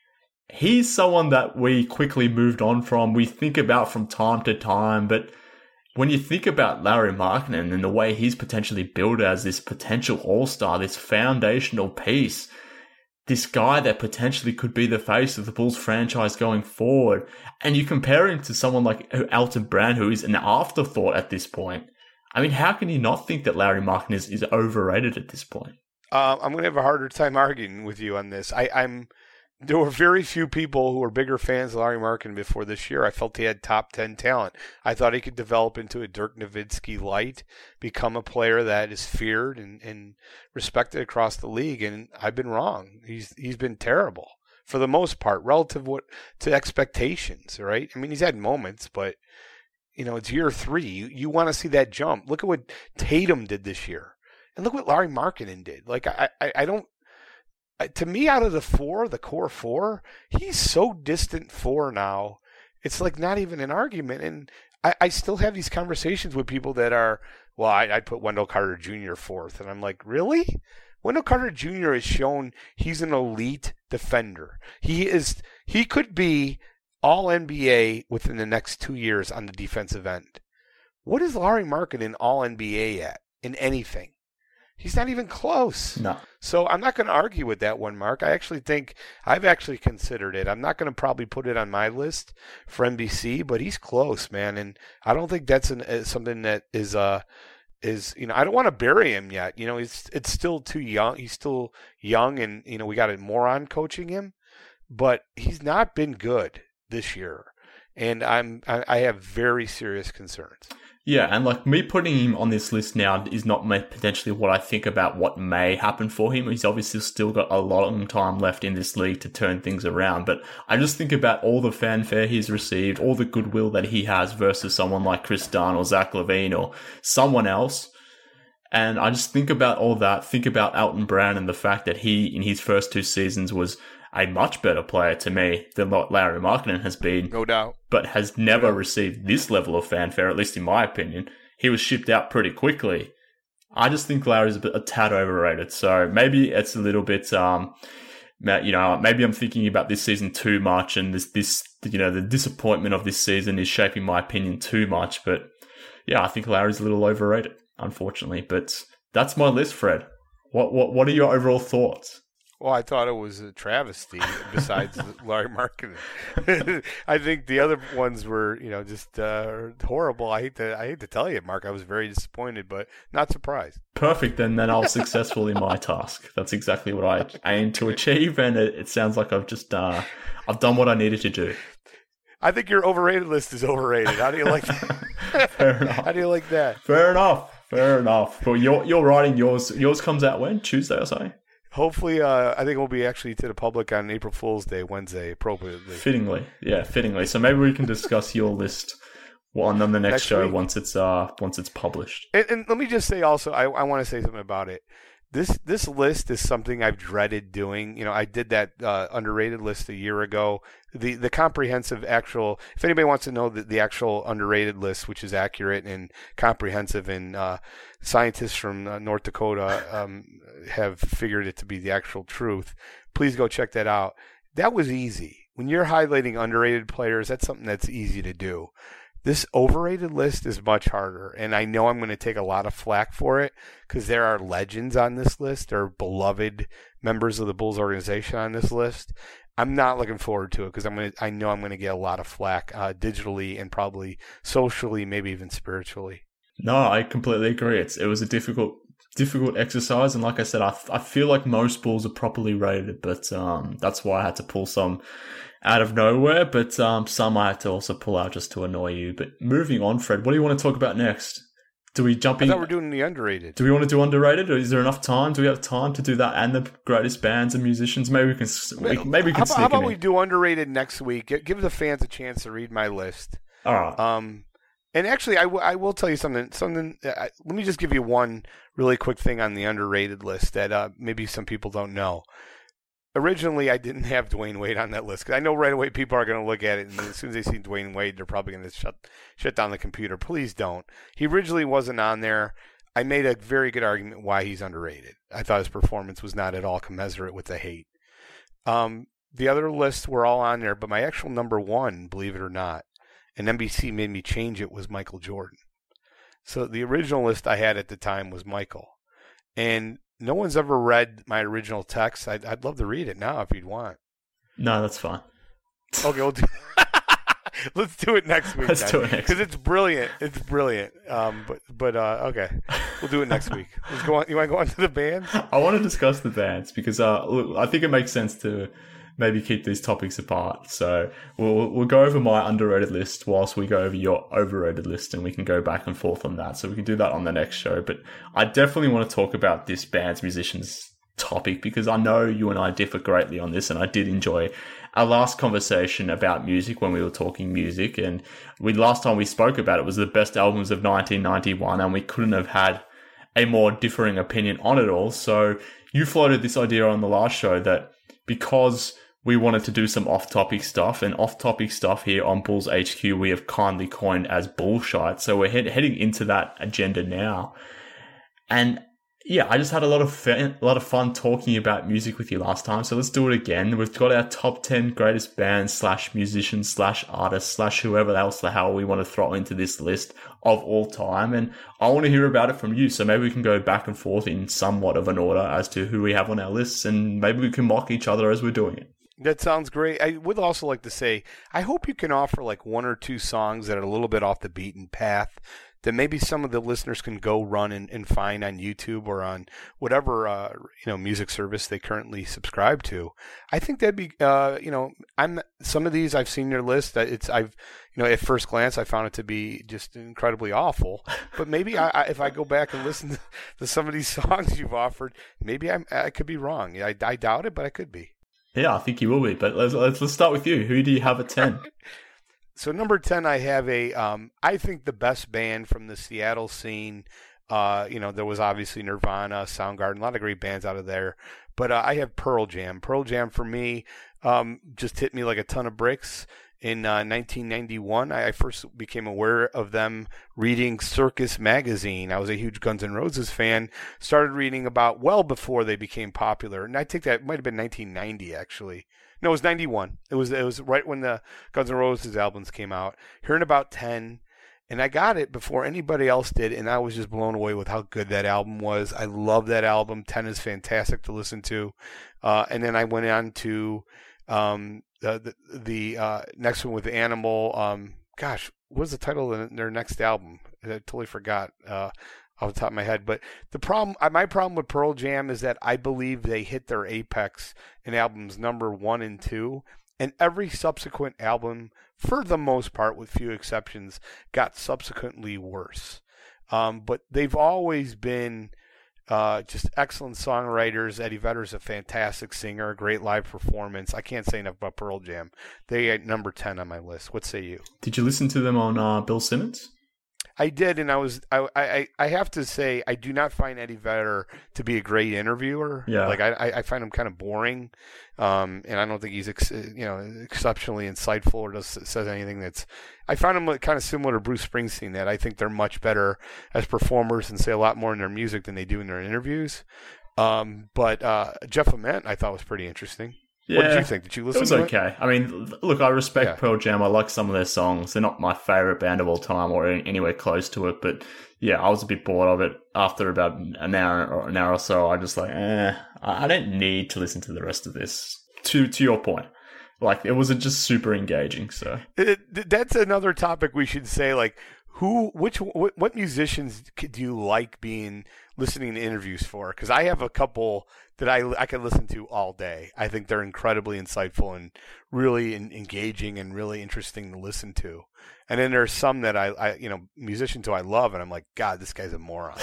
he's someone that we quickly moved on from. We think about from time to time, but when you think about Larry Markkinen and the way he's potentially built as this potential all-star, this foundational piece, this guy that potentially could be the face of the Bulls franchise going forward, and you compare him to someone like Elton Brand, who is an afterthought at this point. I mean, how can you not think that Larry Markkinen is overrated at this point? I'm going to have a harder time arguing with you on this. There were very few people who were bigger fans of Larry Markkinen before this year. I felt he had top 10 talent. I thought he could develop into a Dirk Nowitzki light, become a player that is feared and respected across the league. And I've been wrong. He's been terrible for the most part, relative to expectations, right? I mean, he's had moments, but it's year 3. You want to see that jump. Look at what Tatum did this year. And look what Larry Markkinen did. Like, I don't, to me, out of the core 4, he's so distant 4 now. It's like not even an argument. And I still have these conversations with people that are, well, I'd put Wendell Carter Jr. 4th. And I'm like, really? Wendell Carter Jr. has shown he's an elite defender. He could be all NBA within the next 2 years on the defensive end. What is Larry Markkinen all NBA at in anything? He's not even close. No. So I'm not going to argue with that one, Mark. I actually think I've actually considered it. I'm not going to probably put it on my list for NBC, but he's close, man. And I don't think that's something that is is, I don't want to bury him yet. It's still too young. He's still young, and we got a moron coaching him, but he's not been good this year, and I have very serious concerns. Yeah, and like me putting him on this list now is not potentially what I think about what may happen for him. He's obviously still got a long time left in this league to turn things around, but I just think about all the fanfare he's received, all the goodwill that he has versus someone like Chris Dunn or Zach LaVine or someone else. And I just think about all that, think about Elton Brand and the fact that he, in his first 2 seasons, was a much better player to me than what Lauri Markkanen has been. No doubt. But has never received this level of fanfare, at least in my opinion. He was shipped out pretty quickly. I just think Lauri's a tad overrated. So maybe it's a little bit, maybe I'm thinking about this season too much, and this the disappointment of this season is shaping my opinion too much. But yeah, I think Lauri's a little overrated, unfortunately. But that's my list, Fred. What are your overall thoughts? Well, I thought it was a travesty besides Lauri Markkanen. I think the other ones were, just horrible. I hate to tell you, Mark, I was very disappointed, but not surprised. Perfect. Then I was successful in my task. That's exactly what I aimed to achieve, and it sounds like I've just I've done what I needed to do. I think your overrated list is overrated. How do you like that? Fair enough. How do you like that? Fair enough. But you're writing yours. Yours comes out when? Tuesday or something? Hopefully, I think it will be actually to the public on April Fool's Day, Wednesday, appropriately. Fittingly. So maybe we can discuss your list on the next show week. once it's published. And let me just say also, I want to say something about it. This list is something I've dreaded doing. I did that underrated list a year ago. The comprehensive actual, if anybody wants to know the actual underrated list, which is accurate and comprehensive, and scientists from North Dakota have figured it to be the actual truth, please go check that out. That was easy. When you're highlighting underrated players, that's something that's easy to do. This overrated list is much harder, and I know I'm going to take a lot of flack for it because there are legends on this list. There are beloved members of the Bulls organization on this list. I'm not looking forward to it because I know I'm going to get a lot of flack digitally and probably socially, maybe even spiritually. No, I completely agree. It was a difficult exercise, and like I said, I feel like most Bulls are properly rated, but that's why I had to pull some out of nowhere, but some I had to also pull out just to annoy you. But moving on, Fred, what do you want to talk about next? Do we jump in? I thought we're doing the underrated. Do we want to do underrated, or is there enough time? Do we have time to do that and the greatest bands and musicians? Maybe we can. How about we do underrated next week? Give the fans a chance to read my list. All right. And actually, I will tell you something. Let me just give you one really quick thing on the underrated list that maybe some people don't know. Originally, I didn't have Dwayne Wade on that list because I know right away people are going to look at it, and as soon as they see Dwayne Wade, they're probably going to shut down the computer. Please don't. He originally wasn't on there. I made a very good argument why he's underrated. I thought his performance was not at all commensurate with the hate. The other lists were all on there, but my actual number one, believe it or not, and NBC made me change it, was Michael Jordan. So the original list I had at the time was Michael. And no one's ever read my original text. I'd love to read it now if you'd want. No, that's fine. Okay, let's do it next week. Let's do it next. Because it's brilliant. It's brilliant. But okay, we'll do it next week. Let's go on. You want to go on to the bands? I want to discuss the bands because look, I think it makes sense to maybe keep these topics apart. So we'll go over my underrated list whilst we go over your overrated list, and we can go back and forth on that. So we can do that on the next show. But I definitely want to talk about this bands, musicians topic because I know you and I differ greatly on this, and I did enjoy our last conversation about music when we were talking music. And last time we spoke about it was the best albums of 1991, and we couldn't have had a more differing opinion on it all. So you floated this idea on the last show that because we wanted to do some off-topic stuff, and off-topic stuff here on Bulls HQ we have kindly coined as bullshit. So we're heading into that agenda now. And yeah, I just had a lot of fun talking about music with you last time. So let's do it again. We've got our top 10 greatest bands / musicians / artists / whoever else the hell we want to throw into this list of all time. And I want to hear about it from you. So maybe we can go back and forth in somewhat of an order as to who we have on our lists, and maybe we can mock each other as we're doing it. That sounds great. I would also like to say, I hope you can offer like one or two songs that are a little bit off the beaten path that maybe some of the listeners can go run and find on YouTube or on whatever music service they currently subscribe to. I think that'd be some of these I've seen your list. At first glance I found it to be just incredibly awful. But maybe if I go back and listen to some of these songs you've offered, maybe I could be wrong. I doubt it, but I could be. Yeah, I think you will be. But let's start with you. Who do you have at 10? So number 10, I have I think the best band from the Seattle scene. There was obviously Nirvana, Soundgarden, a lot of great bands out of there. But I have Pearl Jam. Pearl Jam for me just hit me like a ton of bricks. In 1991, I first became aware of them reading Circus Magazine. I was a huge Guns N' Roses fan. Started reading about well before they became popular. And I think that might have been 1990, actually. No, it was 91. It was right when the Guns N' Roses albums came out. Hearing about 10, and I got it before anybody else did, and I was just blown away with how good that album was. I love that album. 10 is fantastic to listen to. And then I went on to the next one with Animal. What was the title of their next album? I totally forgot off the top of my head. But my problem with Pearl Jam is that I believe they hit their apex in albums number 1 and 2, and every subsequent album, for the most part, with few exceptions, got subsequently worse. But they've always been just excellent songwriters. Eddie Vedder's a fantastic singer, a great live performance. I can't say enough about Pearl Jam. They at number 10 on my list. What say you? Did you listen to them on Bill Simmons? I did, and I have to say I do not find Eddie Vedder to be a great interviewer. Yeah, like I find him kind of boring, and I don't think he's exceptionally insightful or says anything that's. I find him kind of similar to Bruce Springsteen. That I think they're much better as performers and say a lot more in their music than they do in their interviews. But Jeff Ament I thought was pretty interesting. Yeah. What did you think? Did you listen to it? It was okay. I mean, look, I respect Pearl Jam. I like some of their songs. They're not my favorite band of all time or anywhere close to it. But yeah, I was a bit bored of it after about an hour or so. I just like, I don't need to listen to the rest of this. To your point, like it wasn't just super engaging. So that's another topic we should say. Like, what musicians do you like listening to interviews for? Because I have a couple that I can listen to all day. I think they're incredibly insightful and really engaging and really interesting to listen to. And then there's some that I musicians who I love, and I'm like, God, this guy's a moron.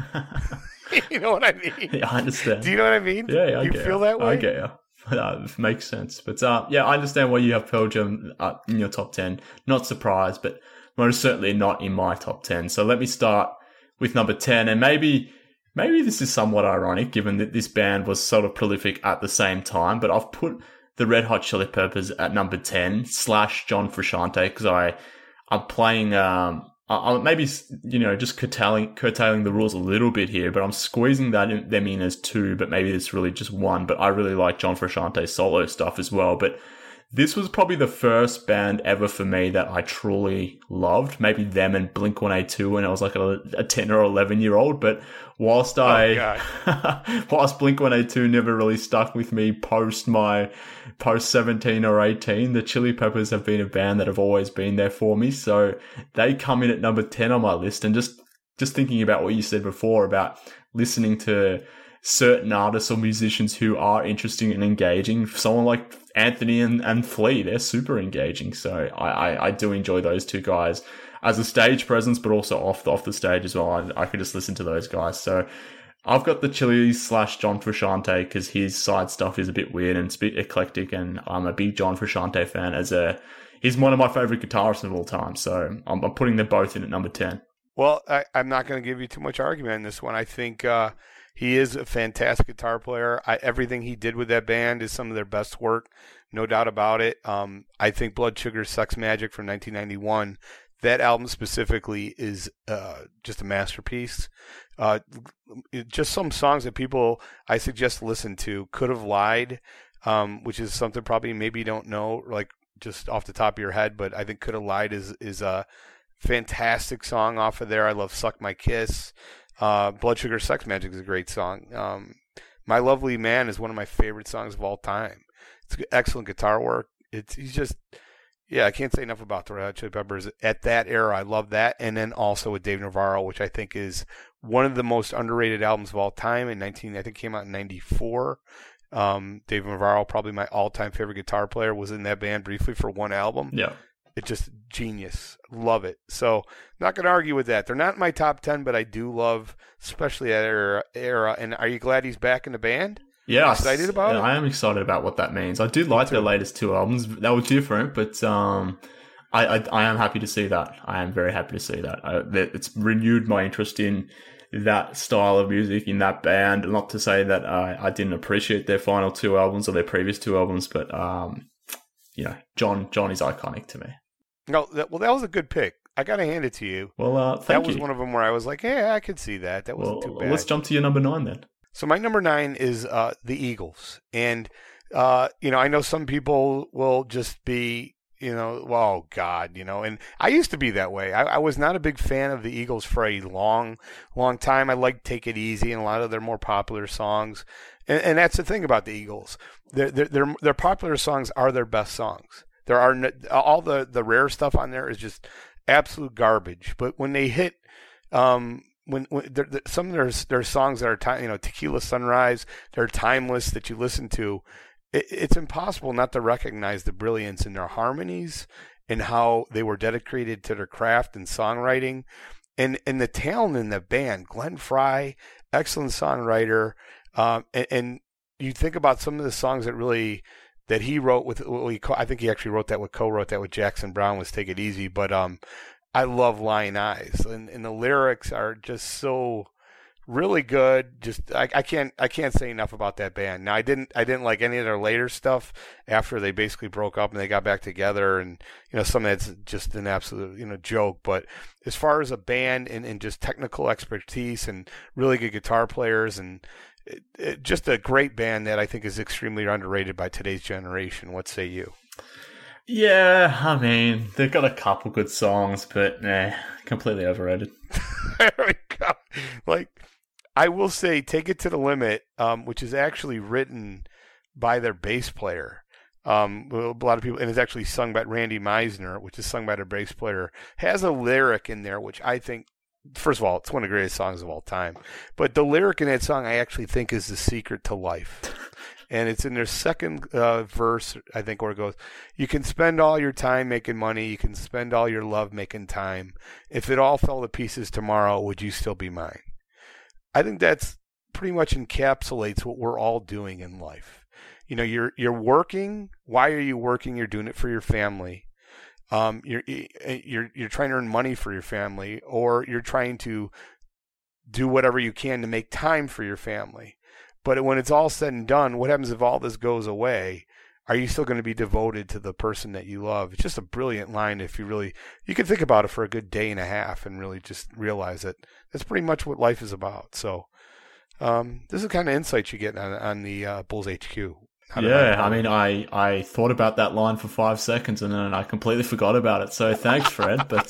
You know what I mean? Yeah, I understand. Do you know what I mean? Yeah, you feel that way? I get you. It makes sense. But yeah, I understand why you have Pearl Jam in your top 10. Not surprised, but most certainly not in my top 10. So let me start with number 10, and maybe this is somewhat ironic given that this band was sort of prolific at the same time, but I've put the Red Hot Chili Peppers at number 10 / John Frusciante because I'm playing, I'm maybe, just curtailing the rules a little bit here, but I'm squeezing them in as 2, but maybe it's really just 1, but I really like John Frusciante's solo stuff as well, but this was probably the first band ever for me that I truly loved. Maybe them and Blink-182 when I was like a 10 or 11-year-old. But whilst whilst Blink-182 never really stuck with me post 17 or 18, the Chili Peppers have been a band that have always been there for me. So they come in at number 10 on my list. And just thinking about what you said before about listening to certain artists or musicians who are interesting and engaging. Someone like Anthony and Flea, they're super engaging. So I do enjoy those two guys as a stage presence, but also off the stage as well. I could just listen to those guys. So I've got the Chili / John Frusciante because his side stuff is a bit weird and it's a bit eclectic, and I'm a big John Frusciante fan. He's one of my favorite guitarists of all time. So I'm putting them both in at number 10. Well, I'm not going to give you too much argument on this one. I think he is a fantastic guitar player. Everything he did with that band is some of their best work, no doubt about it. I think Blood Sugar Sex Magik from 1991, that album specifically is just a masterpiece. Just some songs that people I suggest listen to. Could Have Lied, which is something probably maybe you don't know, like just off the top of your head, but I think Could Have Lied is a fantastic song off of there. I love Suck My Kiss. Blood Sugar Sex Magik is a great song. My Lovely Man is one of my favorite songs of all time. It's excellent guitar work. He's just Yeah, I can't say enough about the Red Hot Chili Peppers. At that era, I love that. And then also with Dave Navarro, which I think is one of the most underrated albums of all time. I think it came out in 94. Dave Navarro, probably my all-time favorite guitar player, was in that band briefly for one album. Yeah. It's just genius. Love it. So not going to argue with that. They're not in my top 10, but I do love especially that era. And are you glad he's back in the band? Yeah, excited about it? I am excited about what that means. I do like their latest 2 albums. They were different, but I am happy to see that. I am very happy to see that. It's renewed my interest in that style of music, in that band. Not to say that I didn't appreciate their final 2 albums or their previous 2 albums, but John is iconic to me. No, that was a good pick. I got to hand it to you. Well, thank you. That was one of them where I was like, yeah, I could see that. That wasn't too bad. Let's jump to your number 9 then. So my number 9 is the Eagles. And, I know some people will just be, oh, God, and I used to be that way. I was not a big fan of the Eagles for a long, long time. I liked Take It Easy and a lot of their more popular songs. And that's the thing about the Eagles. Their popular songs are their best songs. There are all the rare stuff on there is just absolute garbage. But when they hit, when some of their songs that are Tequila Sunrise, they're timeless that you listen to. It's impossible not to recognize the brilliance in their harmonies and how they were dedicated to their craft and songwriting, and the talent in the band. Glenn Frey, excellent songwriter, and you think about some of the songs that he wrote with. I think he actually co-wrote that with Jackson Browne, was Take It Easy, but I love Lion Eyes, and the lyrics are just so really good. Just I can't say enough about that band. Now I didn't like any of their later stuff after they basically broke up and they got back together, and some of that's just an absolute joke. But as far as a band and just technical expertise and really good guitar players and just a great band that I think is extremely underrated by today's generation. What say you? Yeah, I mean, they've got a couple good songs, but completely overrated. There we go. Like, I will say Take It to the Limit, which is actually written by their bass player. A lot of people, and it's actually sung by Randy Meisner, which is sung by their bass player, has a lyric in there, which I think, first of all, it's one of the greatest songs of all time. But the lyric in that song, I actually think, is the secret to life. And it's in their second verse, I think, where it goes, you can spend all your time making money. You can spend all your love making time. If it all fell to pieces tomorrow, would you still be mine? I think that's pretty much encapsulates what we're all doing in life. You're working. Why are you working? You're doing it for your family. You're trying to earn money for your family, or you're trying to do whatever you can to make time for your family. But when it's all said and done, what happens if all this goes away? Are you still going to be devoted to the person that you love? It's just a brilliant line if you can think about it for a good day and a half and really just realize that that's pretty much what life is about. So this is the kind of insights you get on the Bulls HQ. Yeah, I mean, I thought about that line for 5 seconds and then I completely forgot about it. So thanks, Fred. But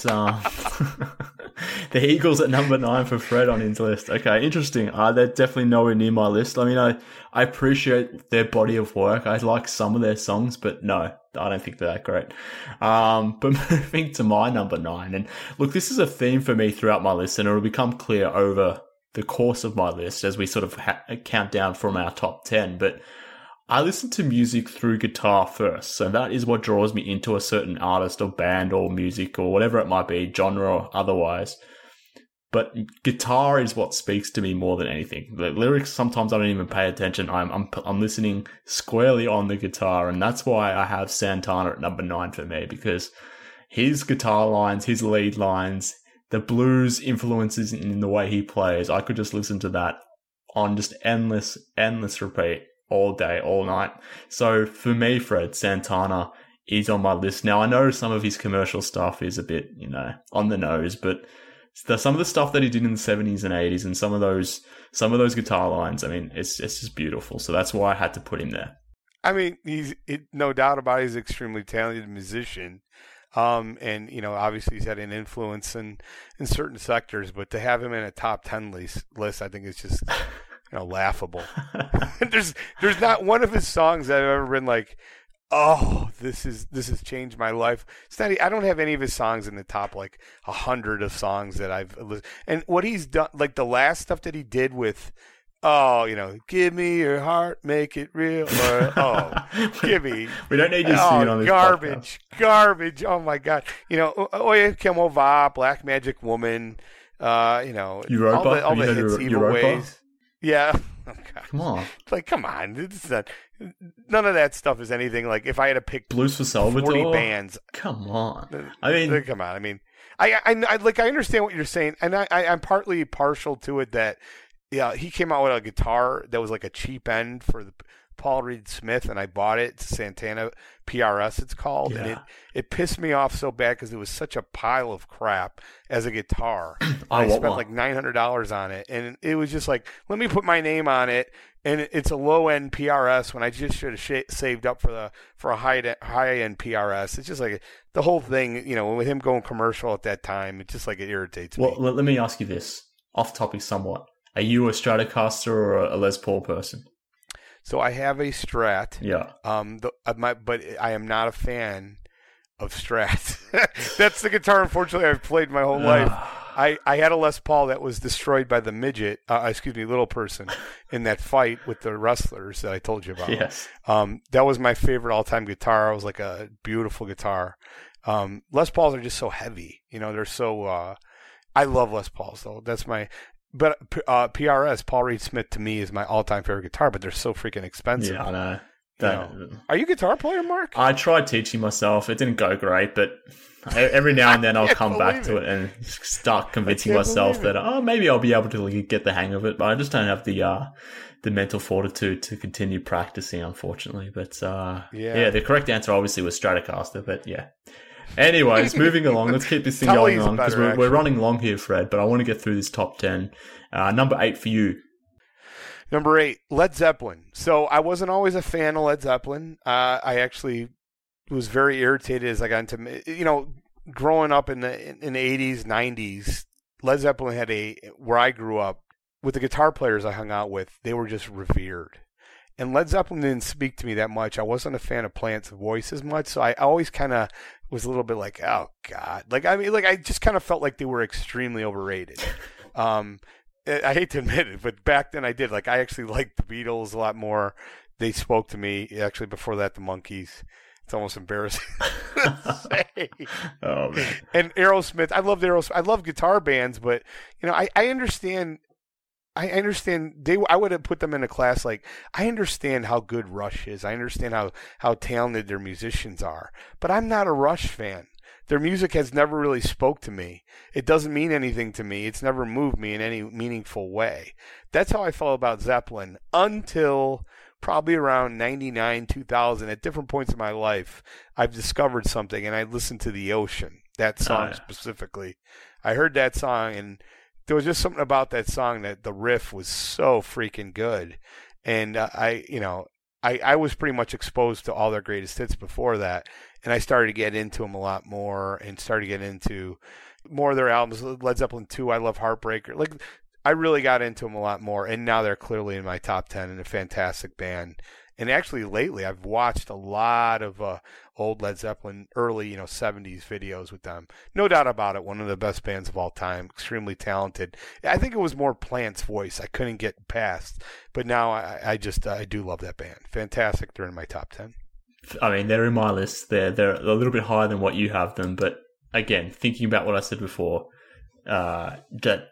the Eagles at number 9 for Fred on his list. Okay, interesting. They're definitely nowhere near my list. I mean, I appreciate their body of work. I like some of their songs, but no, I don't think they're that great. But moving to my number 9, and look, this is a theme for me throughout my list, and it'll become clear over the course of my list as we sort of count down from our top 10. But I listen to music through guitar first, so that is what draws me into a certain artist or band or music or whatever it might be, genre or otherwise. But guitar is what speaks to me more than anything. The lyrics, sometimes I don't even pay attention. I'm listening squarely on the guitar, and that's why I have Santana at number 9 for me, because his guitar lines, his lead lines, the blues influences in the way he plays, I could just listen to that on just endless repeat. All day, all night. So for me, Fred, Santana is on my list. Now, I know some of his commercial stuff is a bit, on the nose, but some of the stuff that he did in the 70s and 80s and some of those guitar lines, I mean, it's just beautiful. So that's why I had to put him there. I mean, no doubt about it, he's an extremely talented musician. And, obviously he's had an influence in certain sectors, but to have him in a top 10 list, I think is just... laughable. There's not one of his songs that I've ever been like, oh, this has changed my life. I don't have any of his songs in the top like 100 of songs that I've listened. And what he's done, like the last stuff that he did with, give me your heart, make it real. Or, give me. We don't need you singing on this garbage. Oh my God. Oye Como Va, Black Magic Woman. Europa. all the hits, Evil Ways. Yeah. Oh, God. Come on. Like, come on. It's not, none of that stuff is anything like if I had to pick Blues for Salvador. 40 bands. Come on. I mean, come on. I mean, I understand what you're saying, and I'm partly partial to it that, yeah, he came out with a guitar that was like a cheap end for the Paul Reed Smith, and I bought it. It's Santana PRS, it's called, yeah. And it pissed me off so bad because it was such a pile of crap as a guitar. I spent like $900 on it, and it was just like, let me put my name on it, and it's a low end PRS when I just should have saved up for a high end PRS. It's just like the whole thing, with him going commercial at that time, it's just like it irritates me. Well, let me ask you this, off topic somewhat. Are you a Stratocaster or a Les Paul person? So I have a Strat. Yeah. But I am not a fan of Strats. That's the guitar, unfortunately, I've played my whole life. I had a Les Paul that was destroyed by the little person in that fight with the wrestlers that I told you about. Yes. That was my favorite all-time guitar. It was like a beautiful guitar. Les Pauls are just so heavy. They're so. I love Les Pauls though. That's my. But PRS, Paul Reed Smith, to me is my all-time favorite guitar. But they're so freaking expensive. Yeah, I know. Are you a guitar player, Mark? I tried teaching myself. It didn't go great, but every now and then I'll come back to it and start convincing myself that maybe I'll be able to get the hang of it. But I just don't have the mental fortitude to continue practicing, unfortunately. But the correct answer obviously was Stratocaster. But yeah. Anyways, moving along. Let's keep this thing going on because we're running long here, Fred. But I want to get through this top 10. Number 8 for you. Number 8, Led Zeppelin. So I wasn't always a fan of Led Zeppelin. I actually was very irritated as I got into, growing up in the 80s, 90s. Led Zeppelin had where I grew up, with the guitar players I hung out with, they were just revered. And Led Zeppelin didn't speak to me that much. I wasn't a fan of Plant's voice as much, so I always kind of was a little bit like, oh, God. I just kind of felt like they were extremely overrated. I hate to admit it, but back then I did. I actually liked the Beatles a lot more. They spoke to me, actually, before that, the Monkees. It's almost embarrassing to say. Oh, man. And Aerosmith. I loved Aerosmith. I love guitar bands, but, I understand. I understand. I would have put them in a class I understand how good Rush is. I understand how talented their musicians are. But I'm not a Rush fan. Their music has never really spoke to me. It doesn't mean anything to me. It's never moved me in any meaningful way. That's how I felt about Zeppelin until probably around 99, 2000. At different points in my life, I've discovered something, and I listened to The Ocean, that song specifically. I heard that song, and there was just something about that song that the riff was so freaking good. And I was pretty much exposed to all their greatest hits before that. And I started to get into them a lot more and started to get into more of their albums. Led Zeppelin 2, I love Heartbreaker. I really got into them a lot more. And now they're clearly in my top 10 and a fantastic band. And actually lately I've watched a lot of old Led Zeppelin, early 70s videos with them. No doubt about it, one of the best bands of all time, extremely talented. I think it was more Plant's voice I couldn't get past. But now I do love that band. Fantastic. They're in my top 10. I mean, they're in my list. They're a little bit higher than what you have them. But again, thinking about what I said before, maybe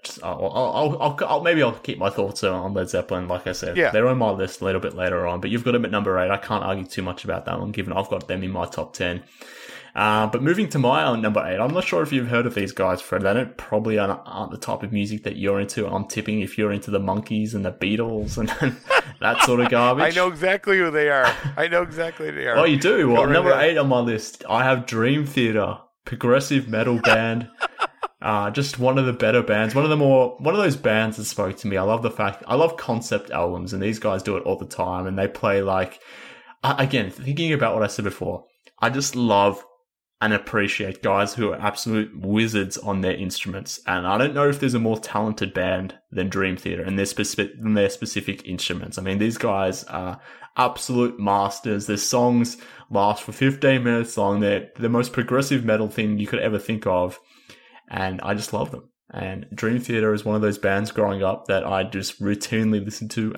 I'll keep my thoughts on Led Zeppelin. Like I said, they're on my list a little bit later on, but you've got them at number 8. I can't argue too much about that one, given I've got them in my top 10. But moving to my number 8, I'm not sure if you've heard of these guys, Fred. They probably aren't the type of music that you're into. I'm tipping if you're into the Monkees and the Beatles and that sort of garbage. I know exactly who they are. Oh, you do? Well, number 8 on my list, I have Dream Theater, progressive metal band. Just one of the better bands. One of those bands that spoke to me. I love concept albums, and these guys do it all the time. And they play again, thinking about what I said before, I just love and appreciate guys who are absolute wizards on their instruments. And I don't know if there's a more talented band than Dream Theater and their specific instruments. I mean, these guys are absolute masters. Their songs last for 15 minutes long. They're the most progressive metal thing you could ever think of. And I just love them. And Dream Theater is one of those bands growing up that I just routinely listened to.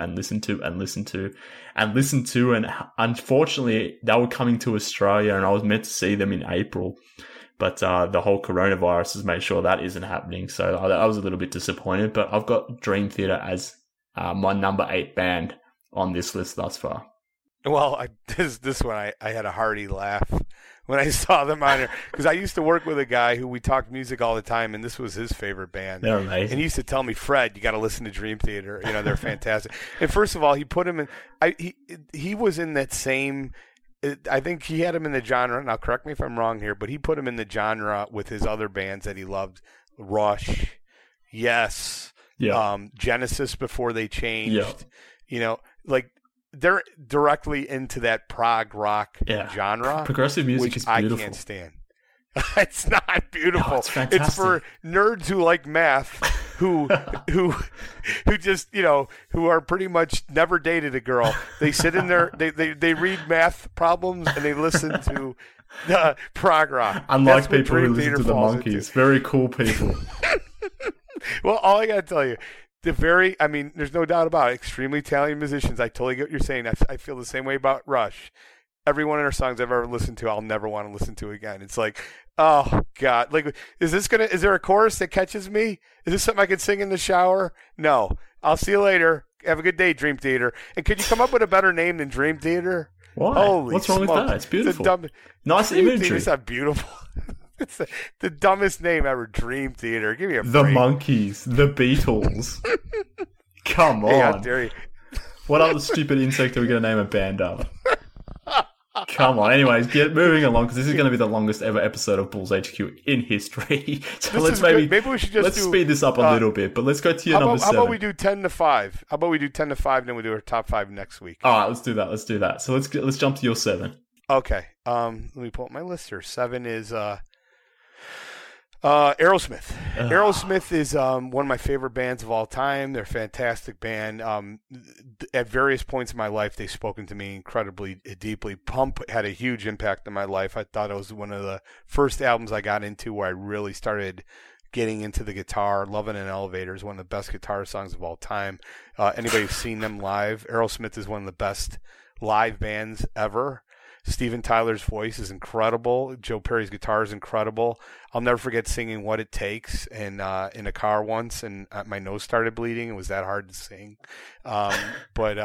And unfortunately, they were coming to Australia and I was meant to see them in April. But the whole coronavirus has made sure that isn't happening. So I was a little bit disappointed. But I've got Dream Theater as my number 8 band on this list thus far. Well, this one I had a hearty laugh when I saw them on here, because I used to work with a guy who we talked music all the time, and this was his favorite band. They're amazing. And he used to tell me, Fred, you got to listen to Dream Theater. You know, they're fantastic. And first of all, he put him in. He was in that same. I think he had him in the genre. Now, correct me if I'm wrong here, but he put him in the genre with his other bands that he loved: Rush, Yes, Genesis before they changed. Yeah. You know, like. They're directly into that prog rock genre. Progressive music is beautiful. I can't stand. It's not beautiful. No, it's fantastic. It's for nerds who like math, who just, you know, who are pretty much never dated a girl. They sit in there, they read math problems and they listen to prog rock. Unlike people who listen to the Monkees. Very cool people. Well, all I got to tell you, there's no doubt about it, extremely talented musicians. I totally get what you're saying. I feel the same way about Rush. Every one of their songs I've ever listened to, I'll never want to listen to again. It's like, oh God, like, is there a chorus that catches me? Is this something I could sing in the shower? No. I'll see you later. Have a good day, Dream Theater. And could you come up with a better name than Dream Theater? Why? Holy What's wrong with smokes. that? It's beautiful. Nice Dream imagery. Theater's not beautiful. It's the dumbest name ever, Dream Theater. Give me a break. The Monkees, the Beatles. Come on. Hey, how dare you? What other stupid insect are we going to name a band of? Come on. Anyways, moving along, because this is going to be the longest ever episode of Bulls HQ in history. So maybe we should just speed this up a little bit, but let's go to your number 7. How about we do 10 to 5? How about we do 10 to 5, and then we do our top 5 next week? All right, let's do that. So let's jump to your 7. Okay. Let me pull up my list here. 7 is Aerosmith. Aerosmith is one of my favorite bands of all time. They're a fantastic band. At various points in my life, they've spoken to me incredibly deeply. Pump had a huge impact on my life. I thought it was one of the first albums I got into where I really started getting into the guitar. Lovin' an Elevator is one of the best guitar songs of all time. Anybody who's seen them live, Aerosmith is one of the best live bands ever. Steven Tyler's voice is incredible. Joe Perry's guitar is incredible. I'll never forget singing What It Takes in a car once, and my nose started bleeding. It was that hard to sing. But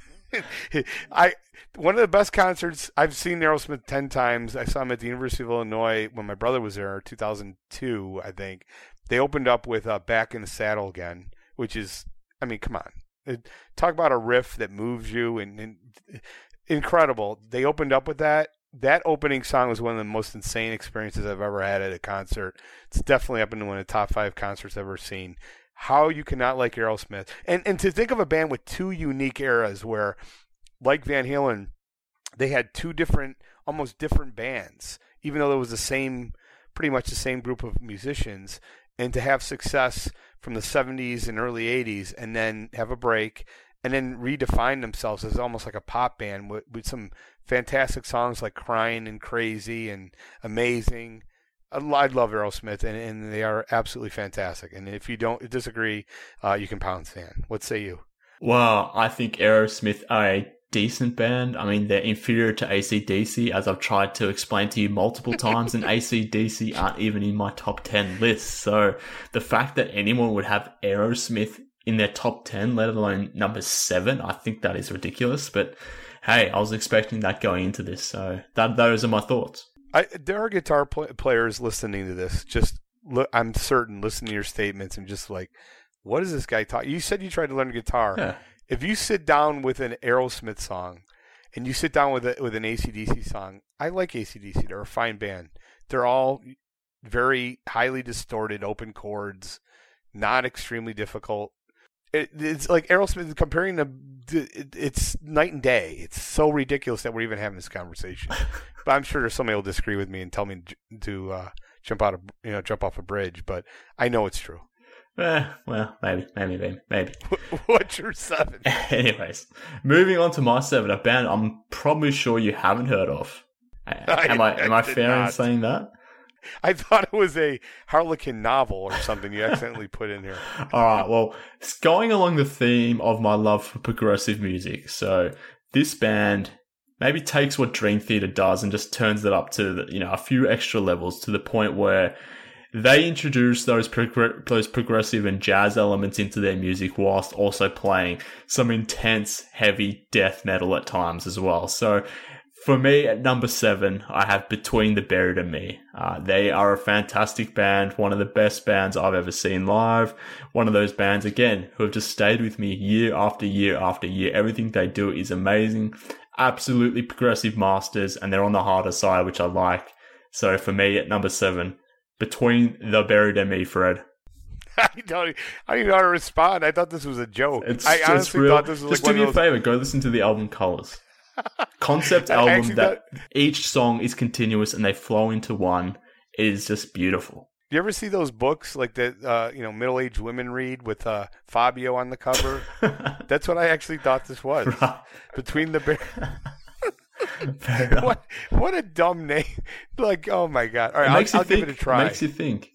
one of the best concerts, I've seen Aerosmith 10 times. I saw them at the University of Illinois when my brother was there, 2002, I think. They opened up with Back in the Saddle Again, which is, I mean, come on. Talk about a riff that moves you and incredible. They opened up with that. That opening song was one of the most insane experiences I've ever had at a concert. It's definitely up into one of the top 5 concerts I've ever seen. How you cannot like Aerosmith. And to think of a band with 2 unique eras where, like Van Halen, they had 2 different, almost different bands, even though it was pretty much the same group of musicians, and to have success from the 70s and early 80s and then have a break and then redefine themselves as almost like a pop band with some fantastic songs like Crying and Crazy and Amazing. I love Aerosmith, and they are absolutely fantastic. And if you don't disagree, you can pound sand. What say you? Well, I think Aerosmith are a decent band. I mean, they're inferior to AC/DC, as I've tried to explain to you multiple times, and AC/DC aren't even in my top 10 list. So the fact that anyone would have Aerosmith in their top 10, let alone number 7, I think that is ridiculous. But hey, I was expecting that going into this, so those are my thoughts. There are guitar players listening to this. I'm certain, listening to your statements and just like, what is this guy talking? You said you tried to learn guitar. Yeah. If you sit down with an Aerosmith song and you sit down with an AC/DC song, I like AC/DC. They're a fine band. They're all very highly distorted, open chords, not extremely difficult. It's like Aerosmith comparing them. It's night and day. It's so ridiculous that we're even having this conversation. But I'm sure there's somebody who'll disagree with me and tell me to jump off a bridge. But I know it's true. Well, maybe. What's your 7? Anyways, moving on to my 7, a band I'm probably sure you haven't heard of. Am I fair in saying that? I thought it was a Harlequin novel or something you accidentally put in here. All right, well, it's going along the theme of my love for progressive music. So this band maybe takes what Dream Theater does and just turns it up to a few extra levels, to the point where they introduce those progressive and jazz elements into their music whilst also playing some intense, heavy death metal at times as well. So for me, at number 7, I have Between the Buried and Me. They are a fantastic band, one of the best bands I've ever seen live. One of those bands, again, who have just stayed with me year after year after year. Everything they do is amazing. Absolutely progressive masters, and they're on the harder side, which I like. So for me, at number 7, Between the Buried and Me, Fred. I don't even know how to respond. I thought this was a joke. I honestly thought this was just like do me a favor, go listen to the album Colors. Concept album that each song is continuous and they flow into one. It is just beautiful. You ever see those books like that middle-aged women read with Fabio on the cover? That's what I actually thought this was. Right. Between the what a dumb name. Like, oh my God. All right, I'll give it a try. It makes you think.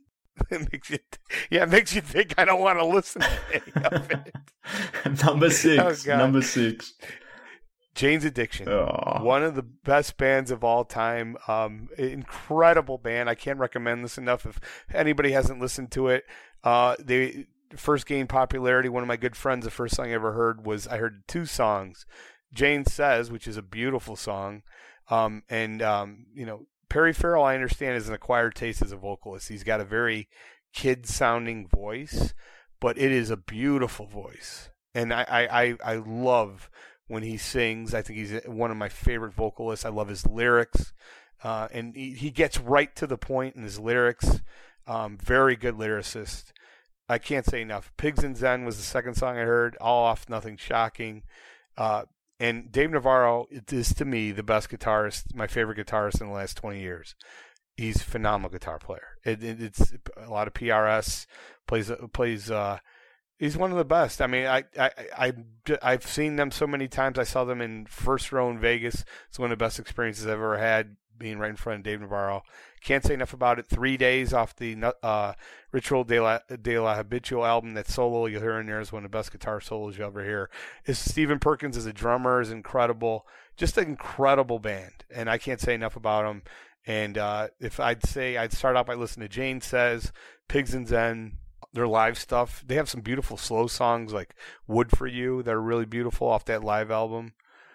It makes you think. I don't want to listen to any of it. Number 6. Number 6. Jane's Addiction, oh. One of the best bands of all time. Incredible band. I can't recommend this enough. If anybody hasn't listened to it, they first gained popularity. One of my good friends, the first song I ever heard I heard 2 songs. Jane Says, which is a beautiful song, and Perry Farrell, I understand, is an acquired taste as a vocalist. He's got a very kid-sounding voice, but it is a beautiful voice, and I love when he sings. I think he's one of my favorite vocalists. I love his lyrics, and he gets right to the point in his lyrics. Very good lyricist. I can't say enough. Pigs and Zen was the second song I heard. All Off, Nothing Shocking. And Dave Navarro is, to me, the best guitarist, my favorite guitarist in the last 20 years. He's a phenomenal guitar player. It's a lot of PRS, plays. He's one of the best. I mean, I've seen them so many times. I saw them in first row in Vegas. It's one of the best experiences I've ever had, being right in front of Dave Navarro. Can't say enough about it. 3 days off the Ritual de la Habitual album. That solo you'll hear in there is one of the best guitar solos you'll ever hear. Stephen Perkins as a drummer is incredible. Just an incredible band, and I can't say enough about them. And if I'd start out by listening to Jane Says, Pigs and Zen, their live stuff. They have some beautiful slow songs like Wood for You that are really beautiful off that live album.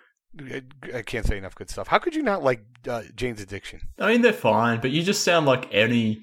I can't say enough good stuff. How could you not like Jane's Addiction? I mean, they're fine, but you just sound like any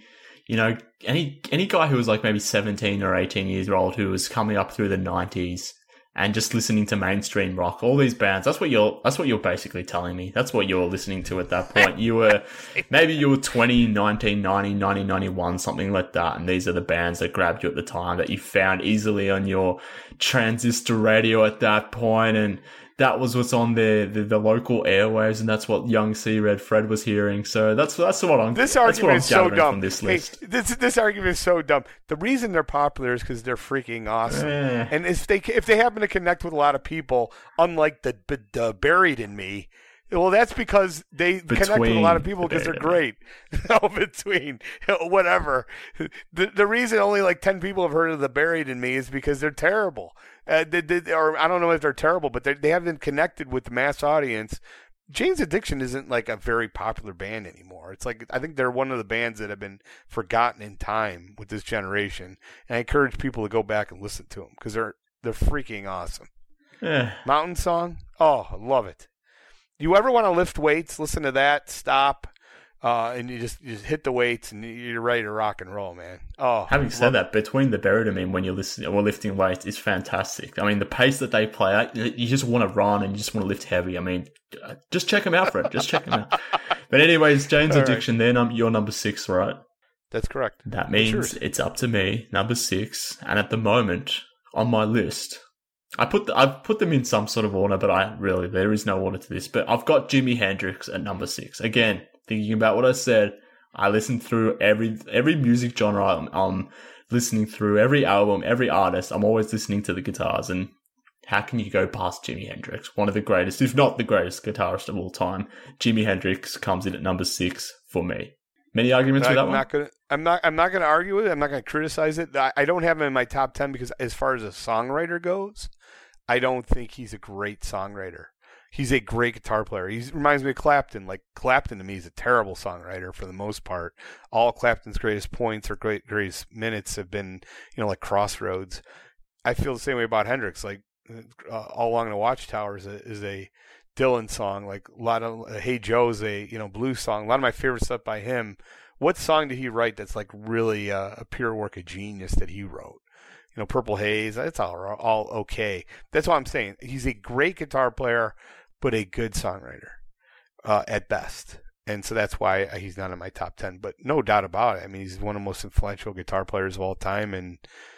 guy who was like maybe 17 or 18 years old who was coming up through the 90s and just listening to mainstream rock. All these bands. That's what you're basically telling me. That's what you're listening to at that point. You were 20, 1990, 1991, something like that. And these are the bands that grabbed you at the time that you found easily on your transistor radio at that point. And that was what's on the local airwaves, and that's what young C-Red Fred was hearing. So that's what I'm. This argument is so dumb. From this list. Hey, this argument is so dumb. The reason they're popular is because they're freaking awesome. And if they happen to connect with a lot of people, unlike the Buried in Me, well, that's because they connect with a lot of people because they're great. Between whatever. The reason only like 10 people have heard of the Buried in Me is because they're terrible. Or I don't know if they're terrible, but they haven't connected with the mass audience. Jane's Addiction isn't like a very popular band anymore. It's like I think they're one of the bands that have been forgotten in time with this generation. And I encourage people to go back and listen to them because they're freaking awesome. Mountain Song, oh, I love it. You ever want to lift weights? Listen to that. Stop. And you just hit the weights and you're ready to rock and roll, man. Oh, having said that, Between the Buried and Me, when you're listening or lifting weights, is fantastic. I mean, the pace that they play at, you just want to run and you just want to lift heavy. I mean, just check them out, Fred. Just check them out. But anyways, Jane's Addiction, right. You're number 6, right? That's correct. That means it's up to me, number 6. And at the moment, on my list, I've put them in some sort of order, but there is no order to this. But I've got Jimi Hendrix at number 6. Again, thinking about what I said, I listened through every music genre I'm listening through, every album, every artist. I'm always listening to the guitars, and how can you go past Jimi Hendrix? One of the greatest, if not the greatest guitarist of all time. Jimi Hendrix comes in at number 6 for me. Many arguments with that one? I'm not going to argue with it. I'm not going to criticize it. I don't have him in my top 10 because as far as a songwriter goes, I don't think he's a great songwriter. He's a great guitar player. He reminds me of Clapton. Like, Clapton to me is a terrible songwriter for the most part. All Clapton's greatest points or greatest minutes have been, like Crossroads. I feel the same way about Hendrix. Like, All Along the Watchtower is a Dylan song. Like, a lot of Hey Joe's a blues song. A lot of my favorite stuff by him. What song did he write that's like really a pure work of genius that he wrote? Purple Haze. It's all okay. That's what I'm saying. He's a great guitar player, but a good songwriter at best. And so that's why he's not in my top 10. But no doubt about it. I mean, he's one of the most influential guitar players of all time. And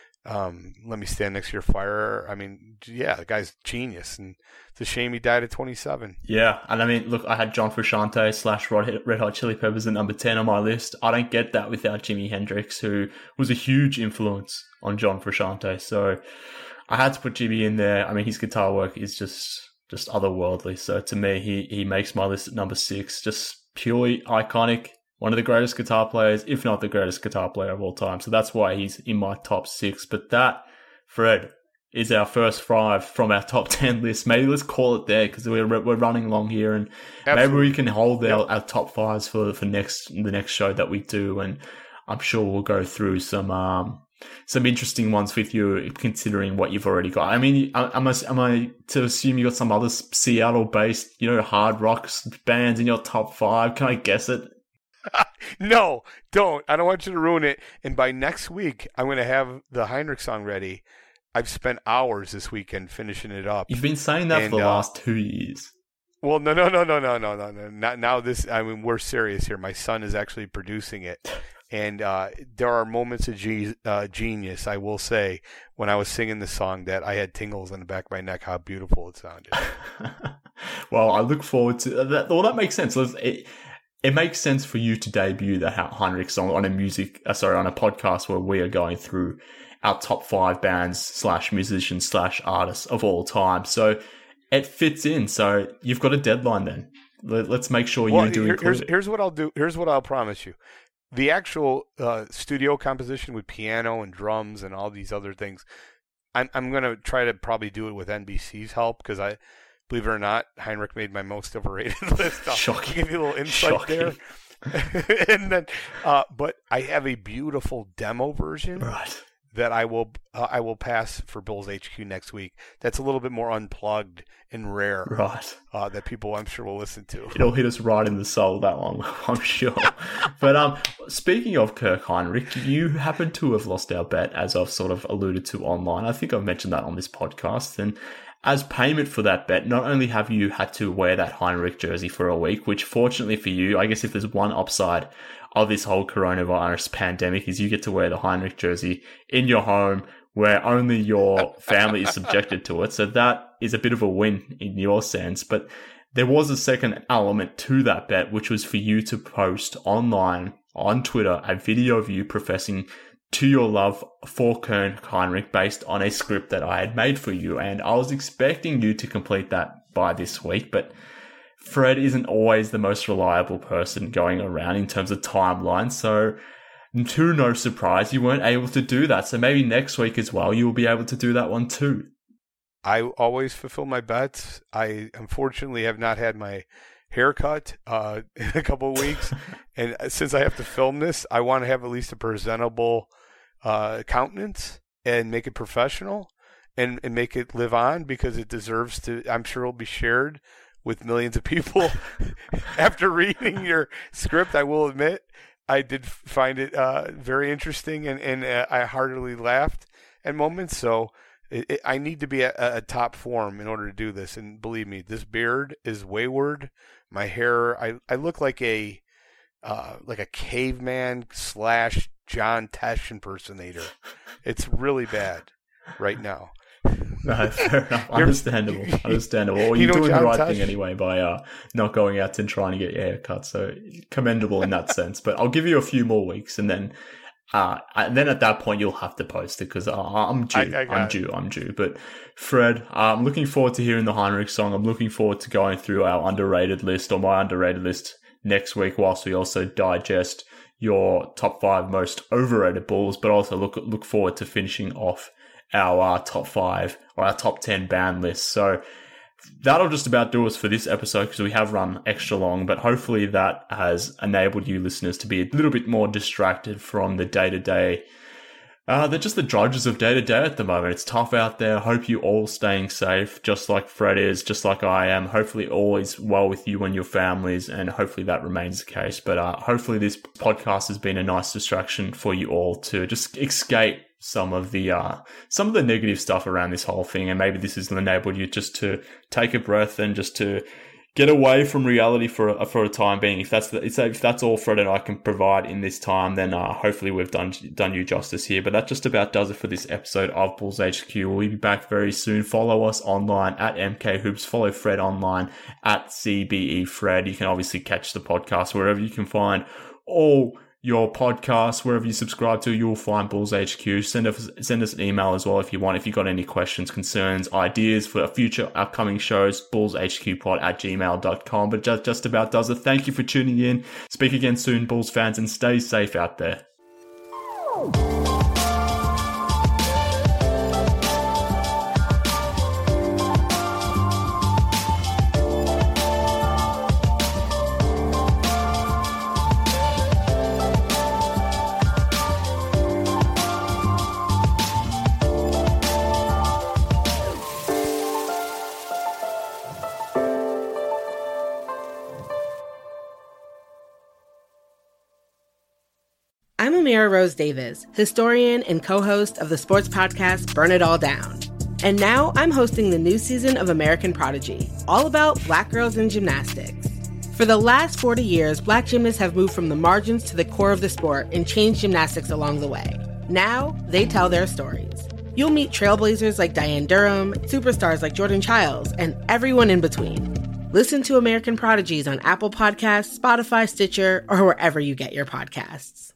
Let Me Stand Next to Your Fire. I mean, yeah, the guy's genius. And it's a shame he died at 27. Yeah. And I mean, look, I had John Frusciante / Red Hot Chili Peppers at number 10 on my list. I don't get that without Jimi Hendrix, who was a huge influence on John Frusciante. So I had to put Jimmy in there. I mean, his guitar work is just otherworldly. So to me, he makes my list at number 6. Just purely iconic. One of the greatest guitar players, if not the greatest guitar player of all time. So that's why he's in my top 6. But that, Fred, is our first 5 from our top 10 list. Maybe let's call it there because we're running along here, and Absolutely. Maybe we can hold our top 5s for the next show that we do. And I'm sure we'll go through some interesting ones with you, considering what you've already got. I mean, am I to assume you got some other Seattle-based, hard rock bands in your top 5? Can I guess it? No, don't. I don't want you to ruin it. And by next week, I'm going to have the Heinrich song ready. I've spent hours this weekend finishing it up. You've been saying that for the last 2 years. Well, no. Not now. We're serious here. My son is actually producing it. And there are moments of genius, I will say, when I was singing the song that I had tingles on the back of my neck, how beautiful it sounded. Well, I look forward to that. Well, that makes sense. It makes sense for you to debut the Heinrich song on a podcast where we are going through our top 5 bands / musicians / artists of all time. So it fits in. So you've got a deadline then. Let's make sure you do include it. Here's what I'll do. Here's what I'll promise you. The actual studio composition with piano and drums and all these other things, I'm going to try to probably do it with NBC's help because believe it or not, Heinrich made my most overrated list. I'll give you a little insight there. And then, but I have a beautiful demo version that I will pass for Bills HQ next week. That's a little bit more unplugged and rare, that people I'm sure will listen to. It'll hit us right in the soul, that one, I'm sure. But speaking of Kirk Heinrich, you happen to have lost our bet, as I've sort of alluded to online. I think I've mentioned that on this podcast, and as payment for that bet, not only have you had to wear that Heinrich jersey for a week, which fortunately for you, I guess if there's one upside of this whole coronavirus pandemic is you get to wear the Heinrich jersey in your home where only your family is subjected to it. So that is a bit of a win in your sense. But there was a second element to that bet, which was for you to post online on Twitter a video of you professing to your love for Kirk Heinrich based on a script that I had made for you. And I was expecting you to complete that by this week, but Fred isn't always the most reliable person going around in terms of timeline. So to no surprise, you weren't able to do that. So maybe next week as well, you will be able to do that one too. I always fulfill my bets. I unfortunately have not had my haircut in a couple of weeks. And since I have to film this, I want to have at least a presentable countenance and make it professional and make it live on because it deserves to. I'm sure it'll be shared with millions of people. After reading your script, I will admit I did find it very interesting and I heartily laughed at moments. So I need to be at a top form in order to do this. And believe me, this beard is wayward. My hair, I look like a caveman / John Tesh impersonator. It's really bad. right now. No, fair enough. Understandable. Well, you're doing the right thing anyway by not going out and trying to get your hair cut. So commendable in that sense. But I'll give you a few more weeks, and then at that point you'll have to post it because I'm due. I'm due. But Fred, I'm looking forward to hearing the Heinrich song. I'm looking forward to going through our underrated list or my underrated list next week, whilst we also digest your top 5 most overrated Bulls, but also look forward to finishing off our top 5 or our top 10 band list. So that'll just about do us for this episode because we have run extra long, but hopefully that has enabled you listeners to be a little bit more distracted from the day-to-day, they're just the drudges of day-to-day at the moment. It's tough out there. Hope you all staying safe, just like Fred is, just like I am. Hopefully all is well with you and your families, and hopefully that remains the case. But hopefully this podcast has been a nice distraction for you all to just escape some of the negative stuff around this whole thing, and maybe this has enabled you just to take a breath and just to get away from reality for a time being. If that's all Fred and I can provide in this time, then hopefully we've done you justice here. But that just about does it for this episode of Bulls HQ. We'll be back very soon. Follow us online at MK Hoops. Follow Fred online at CBE Fred. You can obviously catch the podcast wherever you can find all your podcasts, wherever you subscribe to, you'll find Bulls HQ. Send us an email as well if you want. If you've got any questions, concerns, ideas for future upcoming shows, bullshqpod@gmail.com. But just about does it. Thank you for tuning in. Speak again soon, Bulls fans, and stay safe out there. I'm Amira Rose Davis, historian and co-host of the sports podcast Burn It All Down. And now I'm hosting the new season of American Prodigy, all about Black girls in gymnastics. For the last 40 years, Black gymnasts have moved from the margins to the core of the sport and changed gymnastics along the way. Now, they tell their stories. You'll meet trailblazers like Diane Durham, superstars like Jordan Childs, and everyone in between. Listen to American Prodigies on Apple Podcasts, Spotify, Stitcher, or wherever you get your podcasts.